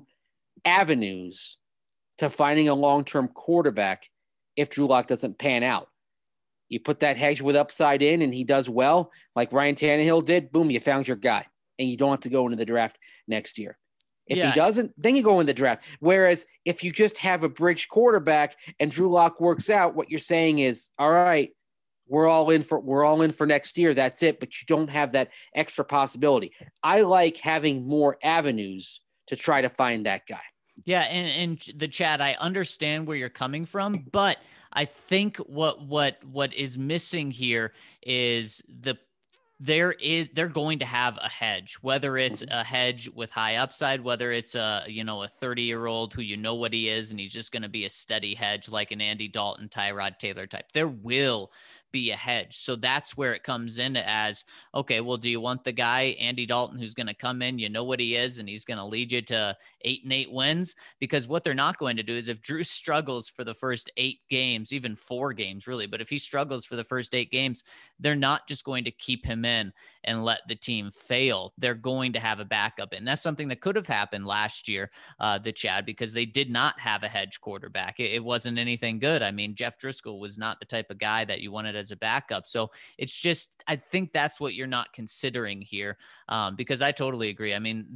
avenues to finding a long-term quarterback if Drew Lock doesn't pan out. You put that hedge with upside in and he does well, like Ryan Tannehill did, boom, you found your guy. And you don't have to go into the draft next year. If he doesn't, then you go in the draft. Whereas if you just have a bridge quarterback and Drew Lock works out, what you're saying is, all right, we're all in for next year. That's it. But you don't have that extra possibility. I like having more avenues to try to find that guy. Yeah. And the chat, I understand where you're coming from, but I think what is missing here is they're going to have a hedge, whether it's a hedge with high upside, whether it's a 30-year-old who what he is, and he's just going to be a steady hedge like an Andy Dalton, Tyrod Taylor type. There will be a hedge. So that's where it comes in as, okay, well, do you want the guy, Andy Dalton, who's going to come in, what he is, and he's going to lead you to 8-8 wins? Because what they're not going to do is if Drew struggles for the first 8 games, even 4 games really, but if he struggles for the first 8 games, they're not just going to keep him in and let the team fail. They're going to have a backup. And that's something that could have happened last year, the Chad, because they did not have a hedge quarterback. It wasn't anything good. I mean, Jeff Driscoll was not the type of guy that you wanted as a backup. So it's just, I think that's what you're not considering here, because I totally agree. I mean,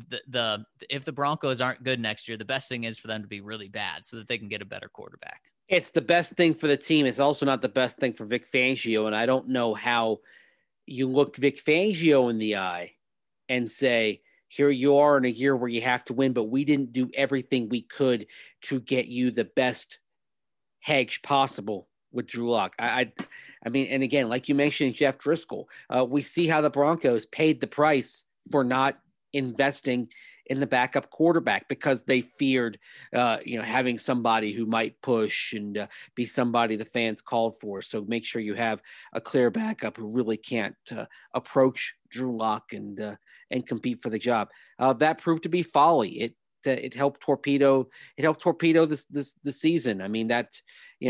if the Broncos aren't good next year, the best thing is for them to be really bad so that they can get a better quarterback. It's the best thing for the team. It's also not the best thing for Vic Fangio. And I don't know how you look Vic Fangio in the eye and say, here you are in a year where you have to win, but we didn't do everything we could to get you the best hedge possible with Drew Lock. I mean, and again, like you mentioned, Jeff Driscoll, we see how the Broncos paid the price for not investing in the backup quarterback because they feared, having somebody who might push and be somebody the fans called for. So make sure you have a clear backup who really can't approach Drew Lock and compete for the job. That proved to be folly. It helped torpedo this season. I mean, that,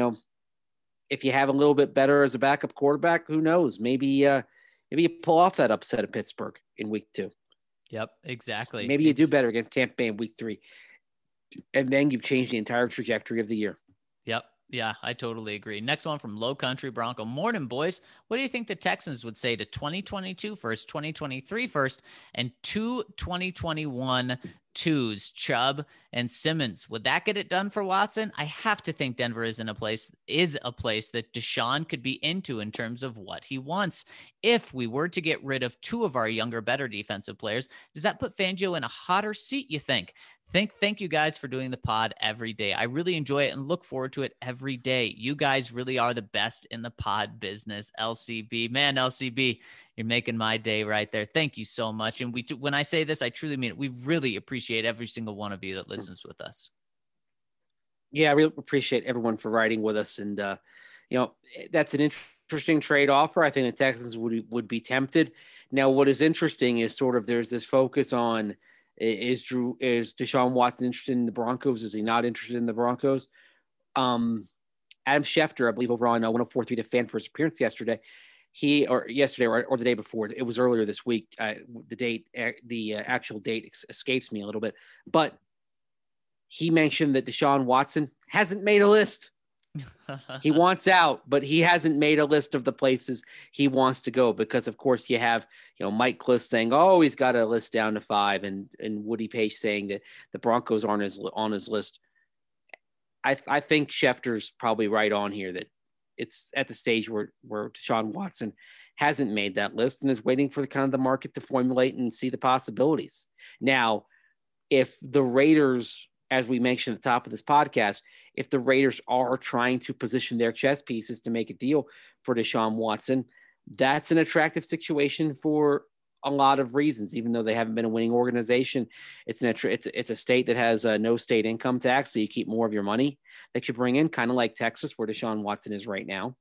if you have a little bit better as a backup quarterback, who knows? Maybe you pull off that upset of Pittsburgh in week 2. Yep, exactly. Maybe you do better against Tampa Bay in week 3. And then you've changed the entire trajectory of the year. Yep. Yeah, I totally agree. Next one from Low Country Bronco. Morning, boys. What do you think the Texans would say to 2022 first, 2023 first, and 2 2021 twos, Chubb and Simmons? Would that get it done for Watson? I have to think Denver is a place that Deshaun could be into in terms of what he wants. If we were to get rid of 2 of our younger, better defensive players, does that put Fangio in a hotter seat, you think? Thank you guys for doing the pod every day. I really enjoy it and look forward to it every day. You guys really are the best in the pod business. LCB, man, LCB, you're making my day right there. Thank you so much. And when I say this, I truly mean it. We really appreciate every single one of you that listens with us. Yeah, I really appreciate everyone for writing with us. And, that's an interesting trade offer. I think the Texans would be tempted. Now, what is interesting is sort of there's this focus on, is Deshaun Watson interested in the Broncos? Is he not interested in the Broncos? Adam Schefter, I believe, over on 104.3 The Fan for his appearance yesterday, or the day before, it was earlier this week. The actual date escapes me a little bit, but he mentioned that Deshaun Watson hasn't made a list He wants out, but he hasn't made a list of the places he wants to go because, of course, you have, Mike Kliss saying, oh, he's got a list down to 5, and Woody Paige saying that the Broncos aren't on his list. I think Schefter's probably right on here that it's at the stage where Deshaun Watson hasn't made that list and is waiting for the market to formulate and see the possibilities. Now, if the Raiders, as we mentioned at the top of this podcast, if the Raiders are trying to position their chess pieces to make a deal for Deshaun Watson, that's an attractive situation for a lot of reasons. Even though they haven't been a winning organization, it's a state that has no state income tax, so you keep more of your money that you bring in, kind of like Texas, where Deshaun Watson is right now.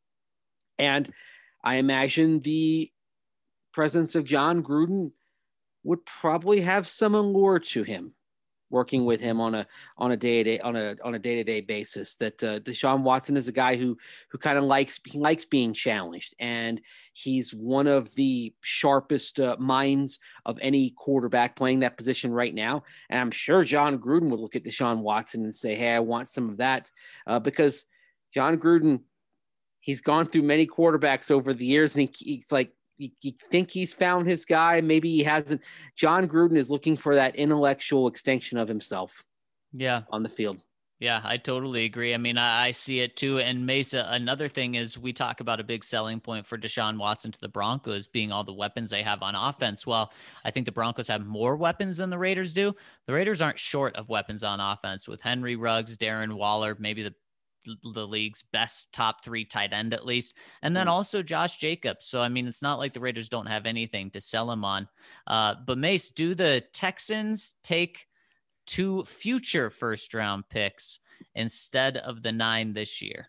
And I imagine the presence of John Gruden would probably have some allure to him, working with him on a day-to-day basis. That Deshaun Watson is a guy who kind of likes being challenged, and he's one of the sharpest minds of any quarterback playing that position right now. And I'm sure John Gruden would look at Deshaun Watson and say, "Hey, I want some of that," because John Gruden, he's gone through many quarterbacks over the years, and he's like, you think he's found his guy. Maybe he hasn't. John Gruden is looking for that intellectual extension of himself. Yeah. On the field. Yeah, I totally agree. I mean, I see it too. And Mesa, another thing is we talk about a big selling point for Deshaun Watson to the Broncos being all the weapons they have on offense. Well, I think the Broncos have more weapons than the Raiders do. The Raiders aren't short of weapons on offense with Henry Ruggs, Darren Waller, maybe the league's best top 3 tight end at least, and then also Josh Jacobs. So I mean, it's not like the Raiders don't have anything to sell him on. But Mace, do the Texans take 2 future first round picks instead of the 9 this year?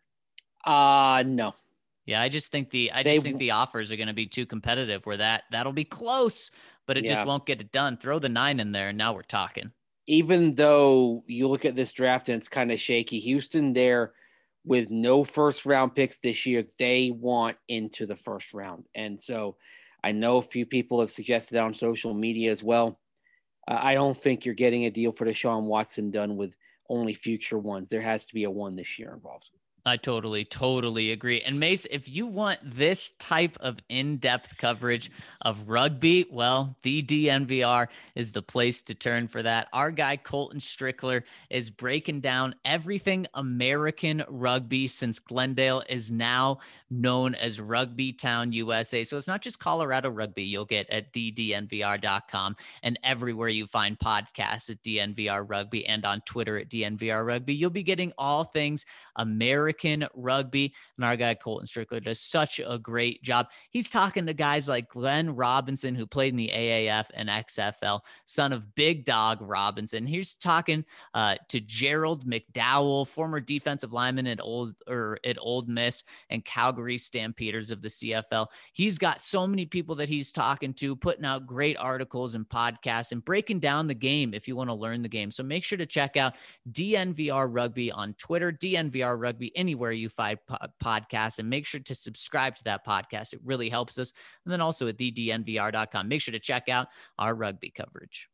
No. Yeah, I just think the offers are going to be too competitive where that'll be close, but it just won't get it done. Throw the 9 in there and now we're talking. Even though you look at this draft and it's kind of shaky, Houston there with no first round picks this year, they want into the first round. And so I know a few people have suggested on social media as well. I don't think you're getting a deal for Deshaun Watson done with only future ones. There has to be a 1 this year involved. I totally agree. And Mace, if you want this type of in-depth coverage of rugby, well, the DNVR is the place to turn for that. Our guy, Colton Strickler, is breaking down everything American rugby since Glendale is now known as Rugby Town, USA. So it's not just Colorado rugby you'll get at thednvr.com and everywhere you find podcasts at DNVR Rugby and on Twitter at DNVR Rugby. You'll be getting all things American rugby, and our guy Colton Strickler does such a great job. He's talking to guys like Glenn Robinson, who played in the AAF and XFL, son of Big Dog Robinson. He's talking to Gerald McDowell, former defensive lineman at Old Miss and Calgary Stampeders of the CFL. He's got so many people that he's talking to, putting out great articles and podcasts and breaking down the game if you want to learn the game. So make sure to check out DNVR Rugby on Twitter, DNVR Rugby anywhere you find podcasts, and make sure to subscribe to that podcast. It really helps us. And then also at thednvr.com, make sure to check out our rugby coverage.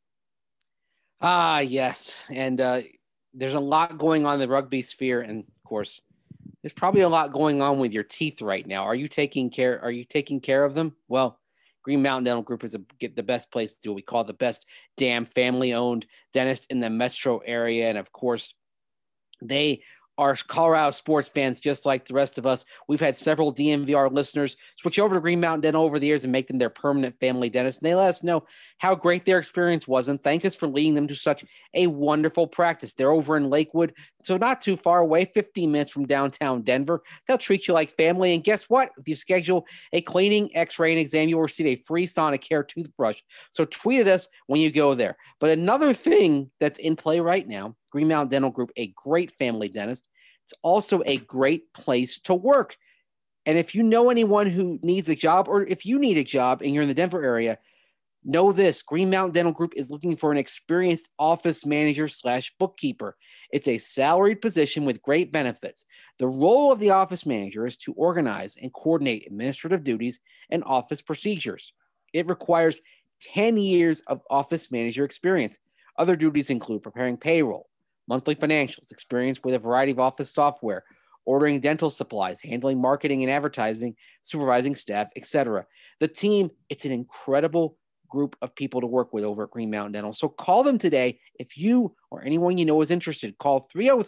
Yes. And there's a lot going on in the rugby sphere. And of course, there's probably a lot going on with your teeth right now. Are you taking care of them? Well, Green Mountain Dental Group is the best place to do it. We call it the best damn family-owned dentist in the metro area. And of course, they are Colorado sports fans just like the rest of us. We've had several DNVR listeners switch over to Green Mountain Dental over the years and make them their permanent family dentist. And they let us know how great their experience was and thank us for leading them to such a wonderful practice. They're over in Lakewood, so not too far away, 15 minutes from downtown Denver. They'll treat you like family. And guess what? If you schedule a cleaning, x-ray, and exam, you'll receive a free Sonicare toothbrush. So tweet at us when you go there. But another thing that's in play right now, Green Mountain Dental Group, a great family dentist. It's also a great place to work. And if you know anyone who needs a job, or if you need a job and you're in the Denver area, know this: Green Mountain Dental Group is looking for an experienced office manager / bookkeeper. It's a salaried position with great benefits. The role of the office manager is to organize and coordinate administrative duties and office procedures. It requires 10 years of office manager experience. Other duties include preparing payroll, monthly financials, experience with a variety of office software, ordering dental supplies, handling marketing and advertising, supervising staff, etc. The team, it's an incredible group of people to work with over at Green Mountain Dental. So call them today. If you or anyone you know is interested, call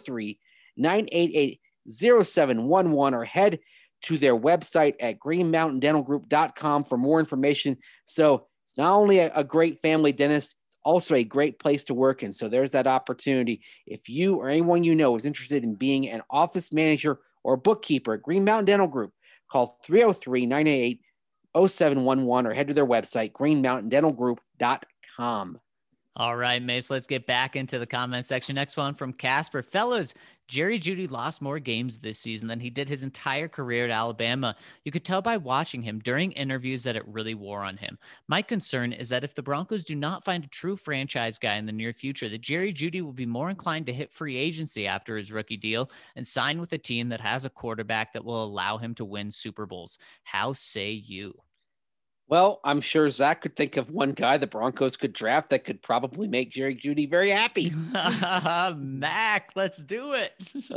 303-988-0711 or head to their website at greenmountaindentalgroup.com for more information. So it's not only a great family dentist, it's also a great place to work in. So there's that opportunity. If you or anyone you know is interested in being an office manager or bookkeeper at Green Mountain Dental Group, call 303-988-0711 or head to their website, greenmountaindentalgroup.com. All right, Mace, let's get back into the comment section. Next one from Casper. Fellas, Jerry Jeudy lost more games this season than he did his entire career at Alabama. You could tell by watching him during interviews that it really wore on him. My concern is that if the Broncos do not find a true franchise guy in the near future, that Jerry Jeudy will be more inclined to hit free agency after his rookie deal and sign with a team that has a quarterback that will allow him to win Super Bowls. How say you? Well, I'm sure Zach could think of one guy the Broncos could draft that could probably make Jerry Jeudy very happy. Mac, let's do it.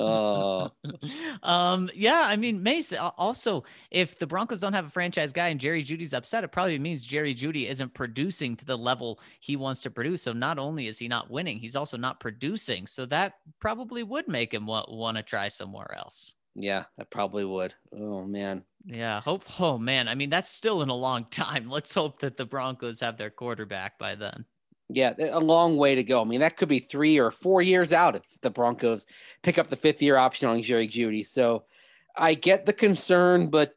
Yeah, I mean, Mace, also, if the Broncos don't have a franchise guy and Jerry Jeudy's upset, it probably means Jerry Jeudy isn't producing to the level he wants to produce. So not only is he not winning, he's also not producing. So that probably would make him want to try somewhere else. Yeah, that probably would. Oh, man. Yeah. Oh, man. I mean, that's still in a long time. Let's hope that the Broncos have their quarterback by then. Yeah, a long way to go. I mean, that could be 3 or 4 years out if the Broncos pick up the 5th-year option on Jerry Jeudy. So I get the concern, but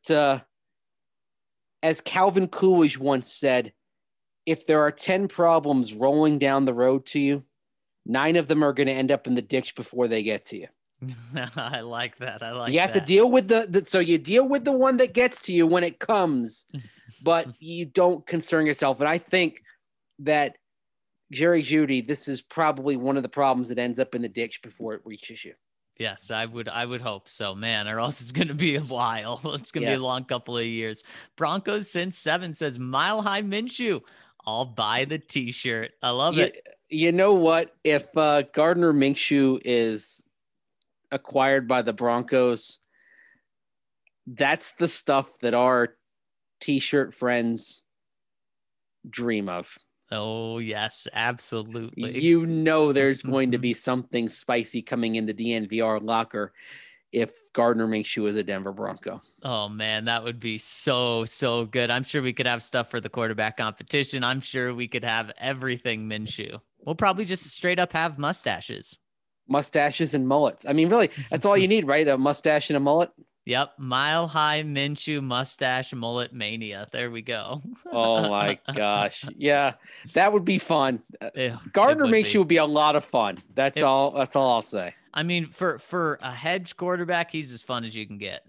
as Calvin Coolidge once said, if there are 10 problems rolling down the road to you, 9 of them are going to end up in the ditch before they get to you. I like that. You have to deal with so you deal with the one that gets to you when it comes, but you don't concern yourself. And I think that Jerry Jeudy, this is probably one of the problems that ends up in the ditch before it reaches you. Yes, I would hope so, man, or else it's going to be a while. It's going to be a long couple of years. Broncos since 7 says Mile High Minshew. I'll buy the t-shirt. I love it. You know what? If Gardner Minshew is acquired by the Broncos, that's the stuff that our t-shirt friends dream of. Oh, yes, absolutely. You know there's going to be something spicy coming in the DNVR locker if Gardner Minshew is a Denver Bronco. Oh, man, that would be so good. I'm sure we could have stuff for the quarterback competition. I'm sure we could have everything Minshew. We'll probably just straight up have mustaches. Mustaches and mullets. I mean, really, that's all you need, right? A mustache and a mullet. Yep. Mile High Minshew mustache mullet mania. There we go. Oh my gosh. Yeah, that would be fun. Gardner would Minshew would be a lot of fun. That's all I'll say. I mean, for a hedge quarterback, he's as fun as you can get.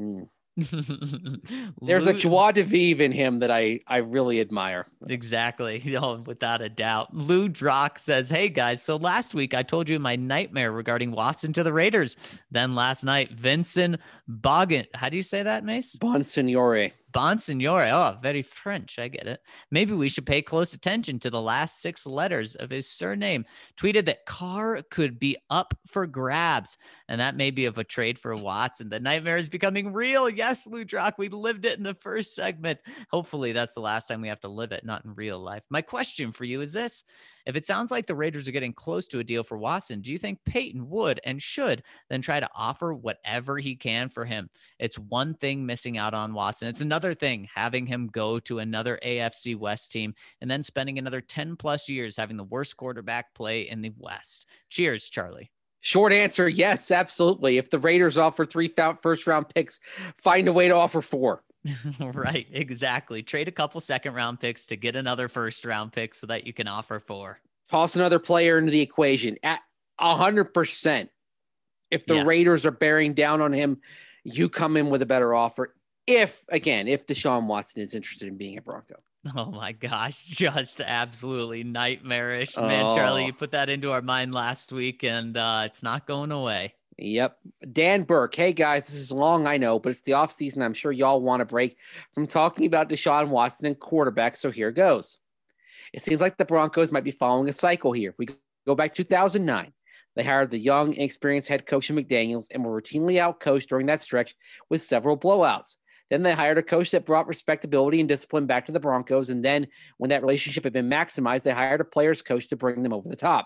There's a joie de vivre in him that I really admire. Exactly. Without a doubt. Lou Drock says, hey guys, so last week I told you my nightmare regarding Watson to the Raiders. Then last night, Vincent Boggin. How do you say that, Mace? Bonsignore. Oh, very French. I get it. Maybe we should pay close attention to the last 6 letters of his surname. Tweeted that Carr could be up for grabs, and that may be of a trade for Watson. The nightmare is becoming real. Yes, Ludrock, we lived it in the first segment. Hopefully that's the last time we have to live it, not in real life. My question for you is this. If it sounds like the Raiders are getting close to a deal for Watson, do you think Peyton would and should then try to offer whatever he can for him? It's one thing missing out on Watson. It's another thing having him go to another AFC West team and then spending another 10 plus years having the worst quarterback play in the West. Cheers, Charlie. Short answer, yes, absolutely. If the Raiders offer 3 first-round picks, find a way to offer 4. Right, exactly. Trade a couple second-round picks to get another first-round pick so that you can offer 4. Toss another player into the equation at 100%. If the Raiders are bearing down on him, you come in with a better offer. If Deshaun Watson is interested in being a Bronco. Oh my gosh, just absolutely nightmarish. Man, Charlie, you put that into our mind last week and it's not going away. Yep. Dan Burke. Hey guys, this is long, I know, but it's the offseason. I'm sure y'all want a break from talking about Deshaun Watson and quarterbacks. So here goes. It seems like the Broncos might be following a cycle here. If we go back 2009, They hired the young, inexperienced head coach in McDaniels and were routinely outcoached during that stretch with several blowouts. Then they hired a coach that brought respectability and discipline back to the Broncos. And then when that relationship had been maximized, they hired a players coach to bring them over the top.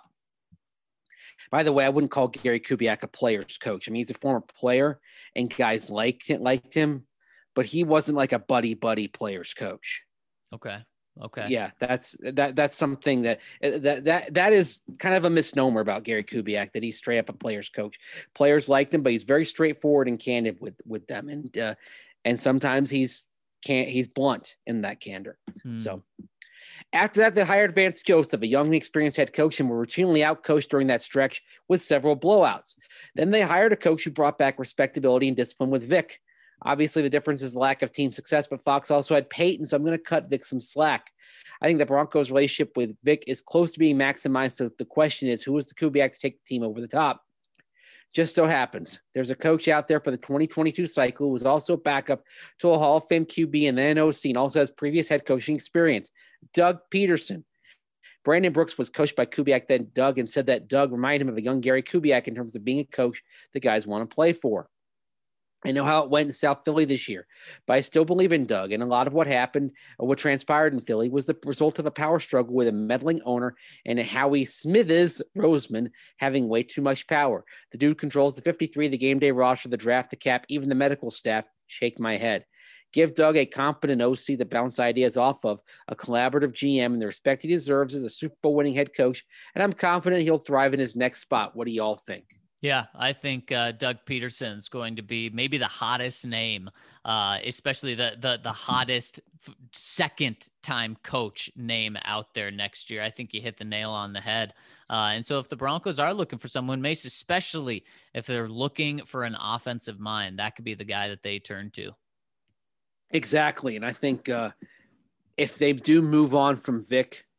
By the way, I wouldn't call Gary Kubiak a players coach. I mean, he's a former player and guys liked him, but he wasn't like a buddy players coach. Okay. Yeah, that's something that is kind of a misnomer about Gary Kubiak, that he's straight up a players coach. Players liked him, but he's very straightforward and candid with them, and sometimes he's blunt in that candor. So after that, they hired Vance Joseph, a young, experienced head coach, and were routinely outcoached during that stretch with several blowouts. Then they hired a coach who brought back respectability and discipline with Vic. Obviously, the difference is the lack of team success, but Fox also had Peyton, so I'm going to cut Vic some slack. I think the Broncos' relationship with Vic is close to being maximized, so the question is, who is the Kubiak to take the team over the top? Just so happens there's a coach out there for the 2022 cycle who was also a backup to a Hall of Fame QB and then OC and also has previous head coaching experience, Doug Peterson. Brandon Brooks was coached by Kubiak, then Doug, and said that Doug reminded him of a young Gary Kubiak in terms of being a coach the guys want to play for. I know how it went in South Philly this year, but I still believe in Doug. And a lot of what happened, or what transpired in Philly, was the result of a power struggle with a meddling owner and a Howie Smithers Roseman having way too much power. The dude controls the 53, the game day roster, the draft, the cap, even the medical staff. Shake my head. Give Doug a competent OC that bounce ideas off of, a collaborative GM, and the respect he deserves as a Super Bowl winning head coach. And I'm confident he'll thrive in his next spot. What do y'all think? Yeah, I think Doug Peterson's going to be maybe the hottest name, especially the hottest second-time coach name out there next year. I think you hit the nail on the head. And so if the Broncos are looking for someone, Mace, especially if they're looking for an offensive mind, that could be the guy that they turn to. Exactly. And I think if they do move on from Vic,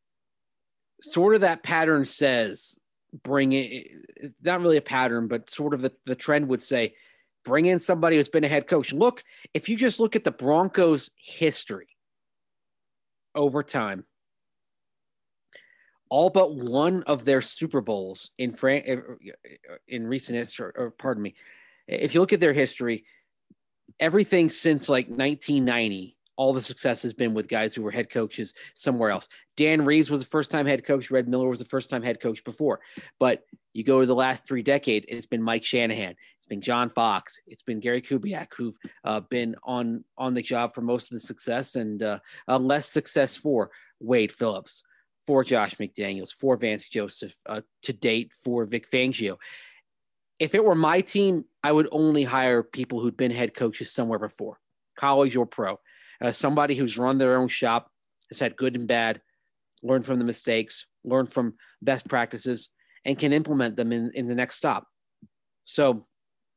sort of that pattern says – bring it, not really a pattern, but sort of the trend would say, bring in somebody who's been a head coach. Look, if you just look at the Broncos' history over time, all but one of their Super Bowls in recent history, or pardon me, if you look at their history, everything since like 1990, all the success has been with guys who were head coaches somewhere else. Dan Reeves was the first-time head coach. Red Miller was the first-time head coach before. But you go to the last 3 decades, it's been Mike Shanahan. It's been John Fox. It's been Gary Kubiak, who've been on the job for most of the success, and less success for Wade Phillips, for Josh McDaniels, for Vance Joseph, to date for Vic Fangio. If it were my team, I would only hire people who'd been head coaches somewhere before, college or pro. Somebody who's run their own shop, has had good and bad, learned from the mistakes, learned from best practices, and can implement them in the next stop. So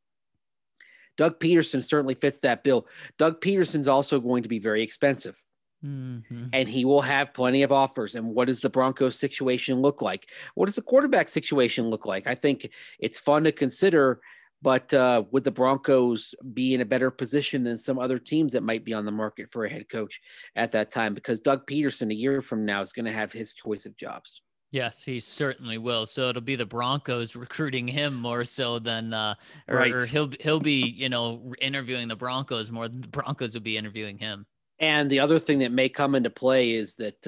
Doug Peterson certainly fits that bill. Doug Peterson's also going to be very expensive. Mm-hmm. And he will have plenty of offers. And what does the Broncos situation look like? What does the quarterback situation look like? I think it's fun to consider. But would the Broncos be in a better position than some other teams that might be on the market for a head coach at that time? Because Doug Peterson, a year from now, is going to have his choice of jobs. Yes, he certainly will. So it'll be the Broncos recruiting him more so than, right. or he'll be, interviewing the Broncos more than the Broncos will be interviewing him. And the other thing that may come into play is that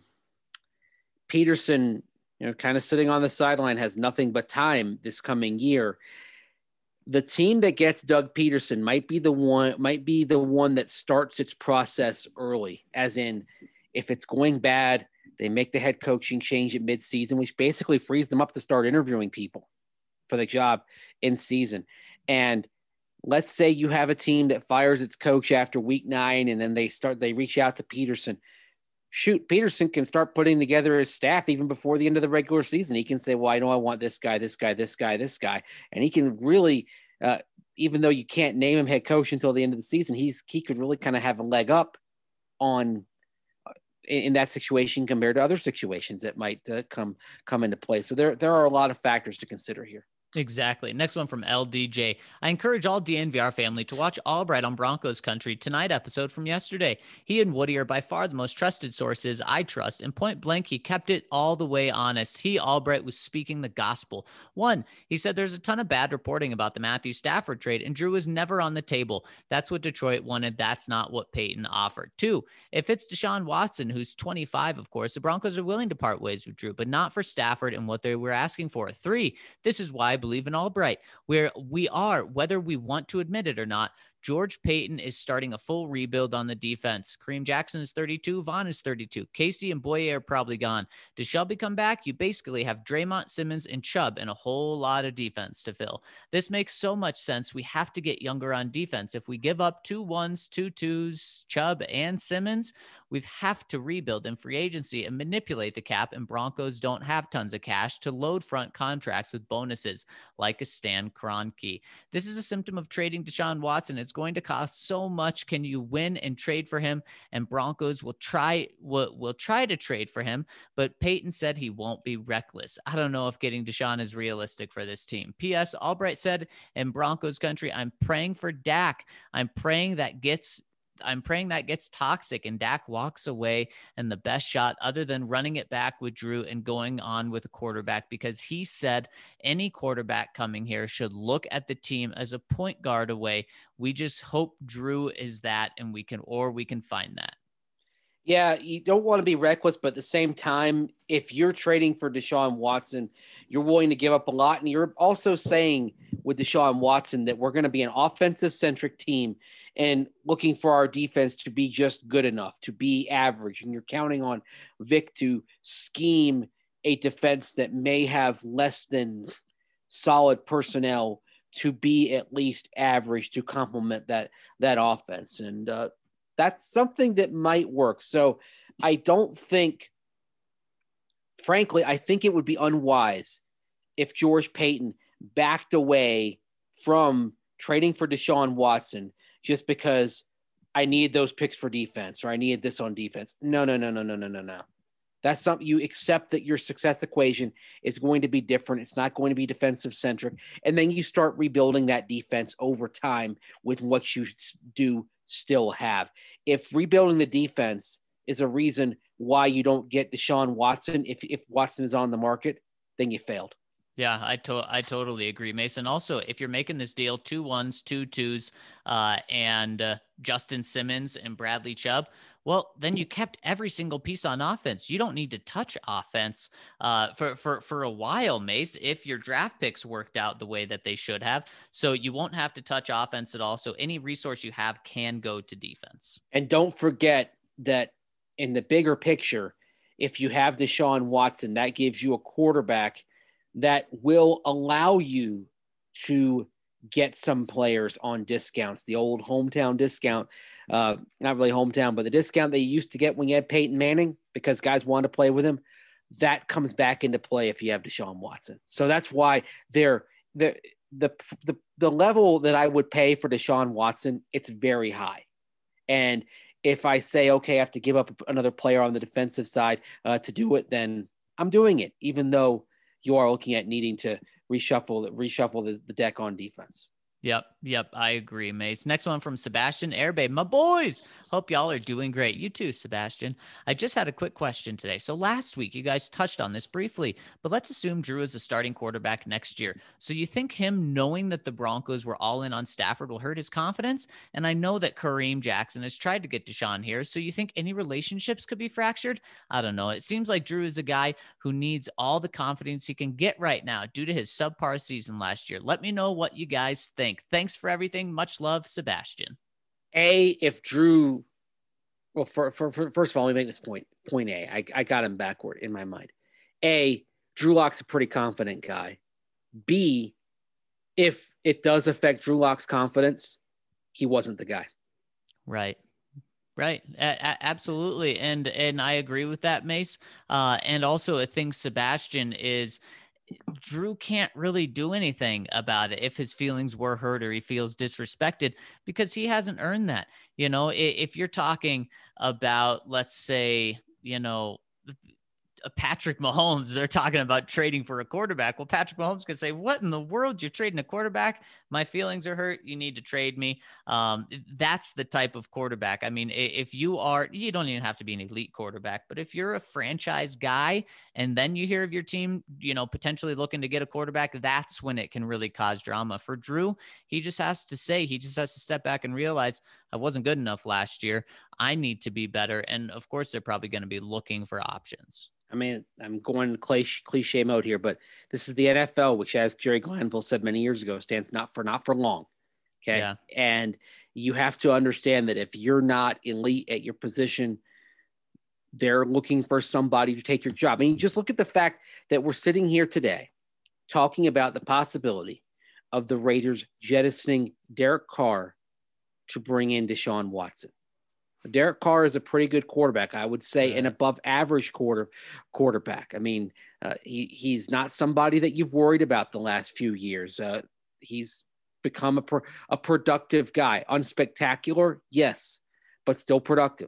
Peterson, kind of sitting on the sideline, has nothing but time this coming year. The team that gets Doug Peterson might be the one that starts its process early, as in if it's going bad, they make the head coaching change at midseason, which basically frees them up to start interviewing people for the job in season. And let's say you have a team that fires its coach after week 9, and then they reach out to Peterson. Shoot, Peterson can start putting together his staff even before the end of the regular season. He can say, well, I know I want this guy, this guy, this guy, this guy. And he can really, even though you can't name him head coach until the end of the season, he could really kind of have a leg up in that situation compared to other situations that might come into play. So there are a lot of factors to consider here. Exactly. Next one from LDJ. I encourage all DNVR family to watch Albright on Broncos Country tonight episode from yesterday. He and Woody are by far the most trusted sources I trust, and point blank, he kept it all the way honest. He, Albright, was speaking the gospel. One, he said there's a ton of bad reporting about the Matthew Stafford trade, and Drew was never on the table. That's what Detroit wanted. That's not what Peyton offered. Two, if it's Deshaun Watson, who's 25, of course, the Broncos are willing to part ways with Drew, but not for Stafford and what they were asking for. Three, this is why I believe in Albright, where we are, whether we want to admit it or not, George Paton is starting a full rebuild on the defense. Kareem Jackson is 32. Vaughn is 32. Casey and Boye are probably gone. Does Shelby come back? You basically have Draymond, Simmons, and Chubb and a whole lot of defense to fill. This makes so much sense. We have to get younger on defense. If we give up 2 1s, 2 2s, Chubb and Simmons, we have to rebuild in free agency and manipulate the cap, and Broncos don't have tons of cash to load front contracts with bonuses like a Stan Kroenke. This is a symptom of trading Deshaun Watson. It's going to cost so much. Can you win and trade for him? And Broncos will try to trade for him, but Peyton said he won't be reckless. I don't know if getting Deshaun is realistic for this team. P.S. Albright said in Broncos country, I'm praying for Dak. I'm praying that gets toxic and Dak walks away and the best shot other than running it back with Drew and going on with a quarterback, because he said any quarterback coming here should look at the team as a point guard away. We just hope Drew is that, and we can find that. Yeah, you don't want to be reckless, but at the same time, if you're trading for Deshaun Watson, you're willing to give up a lot. And you're also saying with Deshaun Watson that we're going to be an offensive-centric team and looking for our defense to be just good enough, to be average. And you're counting on Vic to scheme a defense that may have less than solid personnel to be at least average to complement that offense. And that's something that might work. So I don't think, frankly, I think it would be unwise if George Paton backed away from trading for Deshaun Watson just because I need those picks for defense or I needed this on defense. No. That's something you accept that your success equation is going to be different. It's not going to be defensive centric. And then you start rebuilding that defense over time with what you do still have. If rebuilding the defense is a reason why you don't get Deshaun Watson, if Watson is on the market, then you failed. Yeah, I totally agree, Mason. Also, if you're making this deal, 2 1s, 2 2s, and Justin Simmons and Bradley Chubb, well, then you kept every single piece on offense. You don't need to touch offense for a while, Mace, if your draft picks worked out the way that they should have. So you won't have to touch offense at all. So any resource you have can go to defense. And don't forget that in the bigger picture, if you have Deshaun Watson, that gives you a quarterback that will allow you to get some players on discounts, the old hometown discount, not really hometown, but the discount they used to get when you had Peyton Manning because guys wanted to play with him. That comes back into play if you have Deshaun Watson. So that's why the level that I would pay for Deshaun Watson, it's very high. And if I say, okay, I have to give up another player on the defensive side to do it, then I'm doing it, even though you are looking at needing to reshuffle the deck on defense. Yep. I agree, Mace. Next one from Sebastian Airbay. My boys, hope y'all are doing great. You too, Sebastian. I just had a quick question today. So last week, you guys touched on this briefly, but let's assume Drew is a starting quarterback next year. So you think him knowing that the Broncos were all in on Stafford will hurt his confidence? And I know that Kareem Jackson has tried to get Deshaun here. So you think any relationships could be fractured? I don't know. It seems like Drew is a guy who needs all the confidence he can get right now due to his subpar season last year. Let me know what you guys think. Thanks for everything. Much love, Sebastian. If Drew, well, first of all, let me make this point. Point A, I got him backward in my mind. A, Drew Lock's a pretty confident guy. B, if it does affect Drew Lock's confidence, he wasn't the guy. Right. Absolutely. And I agree with that, Mace. And also I think Sebastian is, Drew can't really do anything about it if his feelings were hurt or he feels disrespected because he hasn't earned that. If you're talking about, let's say, Patrick Mahomes, they're talking about trading for a quarterback. Well, Patrick Mahomes could say, what in the world? You're trading a quarterback? My feelings are hurt. You need to trade me. That's the type of quarterback. I mean, if you don't even have to be an elite quarterback, but if you're a franchise guy and then you hear of your team, potentially looking to get a quarterback, that's when it can really cause drama. For Drew, he just has to step back and realize I wasn't good enough last year. I need to be better. And of course, they're probably going to be looking for options. I mean, I'm going cliche mode here, but this is the NFL, which, as Jerry Glanville said many years ago, stands not for long. Okay. Yeah. And you have to understand that if you're not elite at your position, they're looking for somebody to take your job. I mean, just look at the fact that we're sitting here today talking about the possibility of the Raiders jettisoning Derek Carr to bring in Deshaun Watson. Derek Carr is a pretty good quarterback, I would say, an above average quarterback. I mean, he's not somebody that you've worried about the last few years. He's become a productive guy. Unspectacular, yes, but still productive.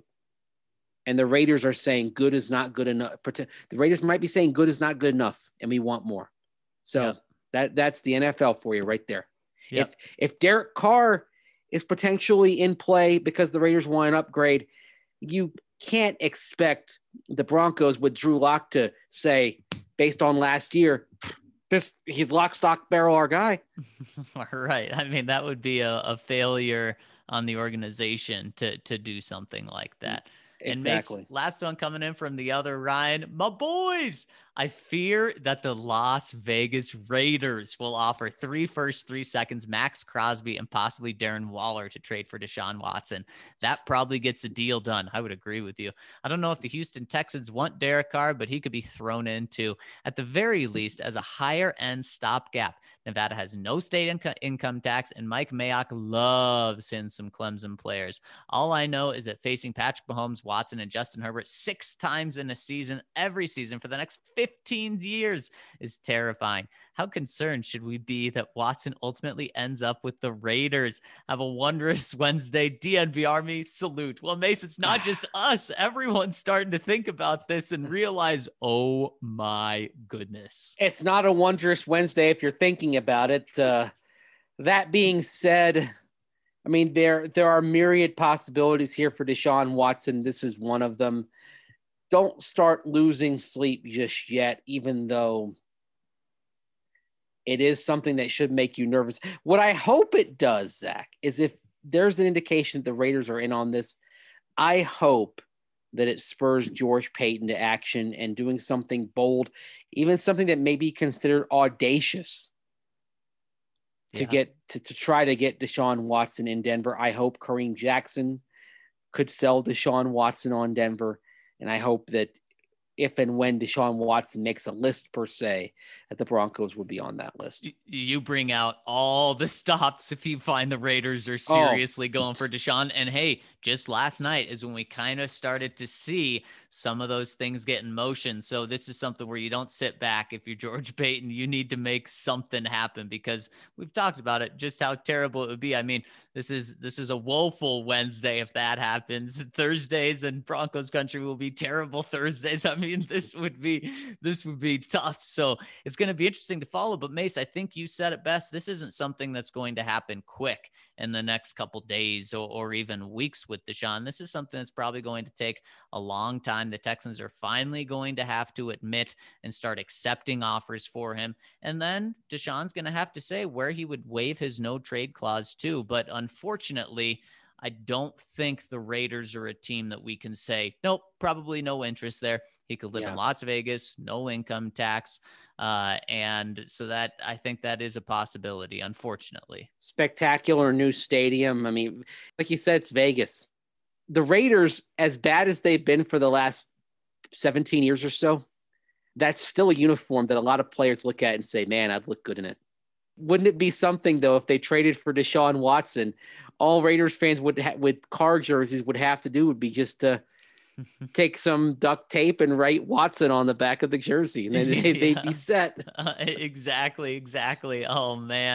And the Raiders are saying good is not good enough. The Raiders might be saying good is not good enough, and we want more. So that's the NFL for you right there. Yep. If Derek Carr is potentially in play because the Raiders want an upgrade, you can't expect the Broncos with Drew Lock to say, based on last year, he's lock, stock, barrel our guy. Right. I mean, that would be a failure on the organization to do something like that. Exactly. And Mace, last one coming in from the other Ryan, my boys. I fear that the Las Vegas Raiders will offer 3 firsts, 3 seconds, Max Crosby, and possibly Darren Waller to trade for Deshaun Watson. That probably gets a deal done. I would agree with you. I don't know if the Houston Texans want Derek Carr, but he could be thrown into, at the very least, as a higher end stopgap. Nevada has no state income tax, and Mike Mayock loves him some Clemson players. All I know is that facing Patrick Mahomes, Watson, and Justin Herbert 6 times in a season, every season for the next 15 years is terrifying. How concerned should we be that Watson ultimately ends up with the Raiders? Have a wondrous Wednesday. DNB Army, salute. Well, Mace, it's not just us. Everyone's starting to think about this and realize, oh my goodness. It's not a wondrous Wednesday if you're thinking about it. That being said, I mean, there are myriad possibilities here for Deshaun Watson. This is one of them. Don't start losing sleep just yet, even though it is something that should make you nervous. What I hope it does, Zach, is if there's an indication that the Raiders are in on this, I hope that it spurs George Paton to action and doing something bold, even something that may be considered audacious to try to get Deshaun Watson in Denver. I hope Kareem Jackson could sell Deshaun Watson on Denver. And I hope that if and when Deshaun Watson makes a list per se, that the Broncos would be on that list. You bring out all the stops if you find the Raiders are seriously going for Deshaun. And hey, just last night is when we kind of started to see some of those things get in motion. So this is something where you don't sit back. If you're George Paton, you need to make something happen, because we've talked about it, just how terrible it would be. I mean, this is a woeful Wednesday if that happens. Thursdays and Broncos country will be terrible Thursdays. I mean, this would be tough. So it's going to be interesting to follow. But Mace, I think you said it best. This isn't something that's going to happen quick in the next couple days or even weeks with Deshaun. This is something that's probably going to take a long time. The Texans are finally going to have to admit and start accepting offers for him. And then Deshaun's going to have to say where he would waive his no trade clause to. But unfortunately, I don't think the Raiders are a team that we can say, nope, probably no interest there. He could live in Las Vegas, no income tax. And so that, I think that is a possibility, unfortunately. Spectacular new stadium. I mean, like you said, it's Vegas. The Raiders, as bad as they've been for the last 17 years or so, that's still a uniform that a lot of players look at and say, man, I'd look good in it. Wouldn't it be something, though, if they traded for Deshaun Watson? All Raiders fans with Carr jerseys would have to do would be just to take some duct tape and write Watson on the back of the jersey, and then they'd be set. Exactly. Oh man,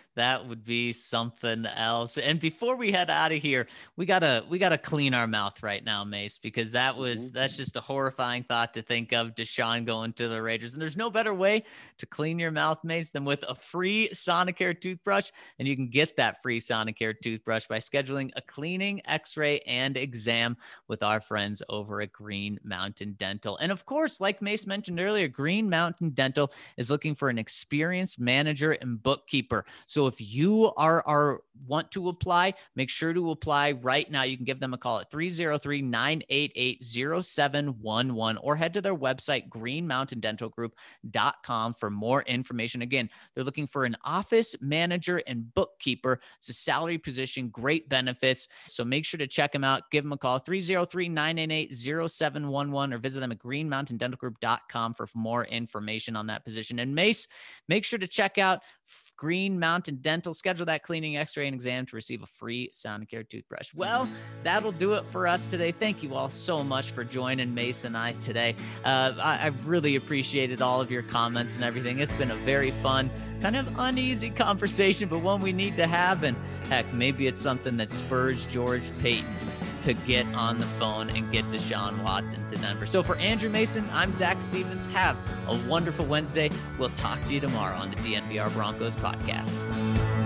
That would be something else. And before we head out of here, we gotta clean our mouth right now, Mace, because that's just a horrifying thought to think of, Deshaun going to the Raiders. And there's no better way to clean your mouth, Mace, than with a free Sonicare toothbrush. And you can get that free Sonicare toothbrush by scheduling a cleaning, x-ray, and exam with our friends over at Green Mountain Dental. And of course, like Mace mentioned earlier, Green Mountain Dental is looking for an experienced manager and bookkeeper. So if you want to apply, make sure to apply right now. You can give them a call at 303-988-0711 or head to their website, greenmountaindentalgroup.com, for more information. Again, they're looking for an office manager and bookkeeper. It's a salary position, great benefits. So make sure to check them out. Give them a call, 303-988-0711, or visit them at greenmountaindentalgroup.com for more information on that position. And Mace, make sure to check out Green Mountain Dental. Schedule that cleaning, x-ray, and exam to receive a free Sonicare toothbrush. Well, that'll do it for us today. Thank you all so much for joining Mace and I today. I've really appreciated all of your comments and everything. It's been a very fun, kind of uneasy conversation, but one we need to have. And heck, maybe it's something that spurs George Paton to get on the phone and get Deshaun Watson to Denver. So for Andrew Mason, I'm Zach Stevens. Have a wonderful Wednesday. We'll talk to you tomorrow on the DNVR Broncos podcast.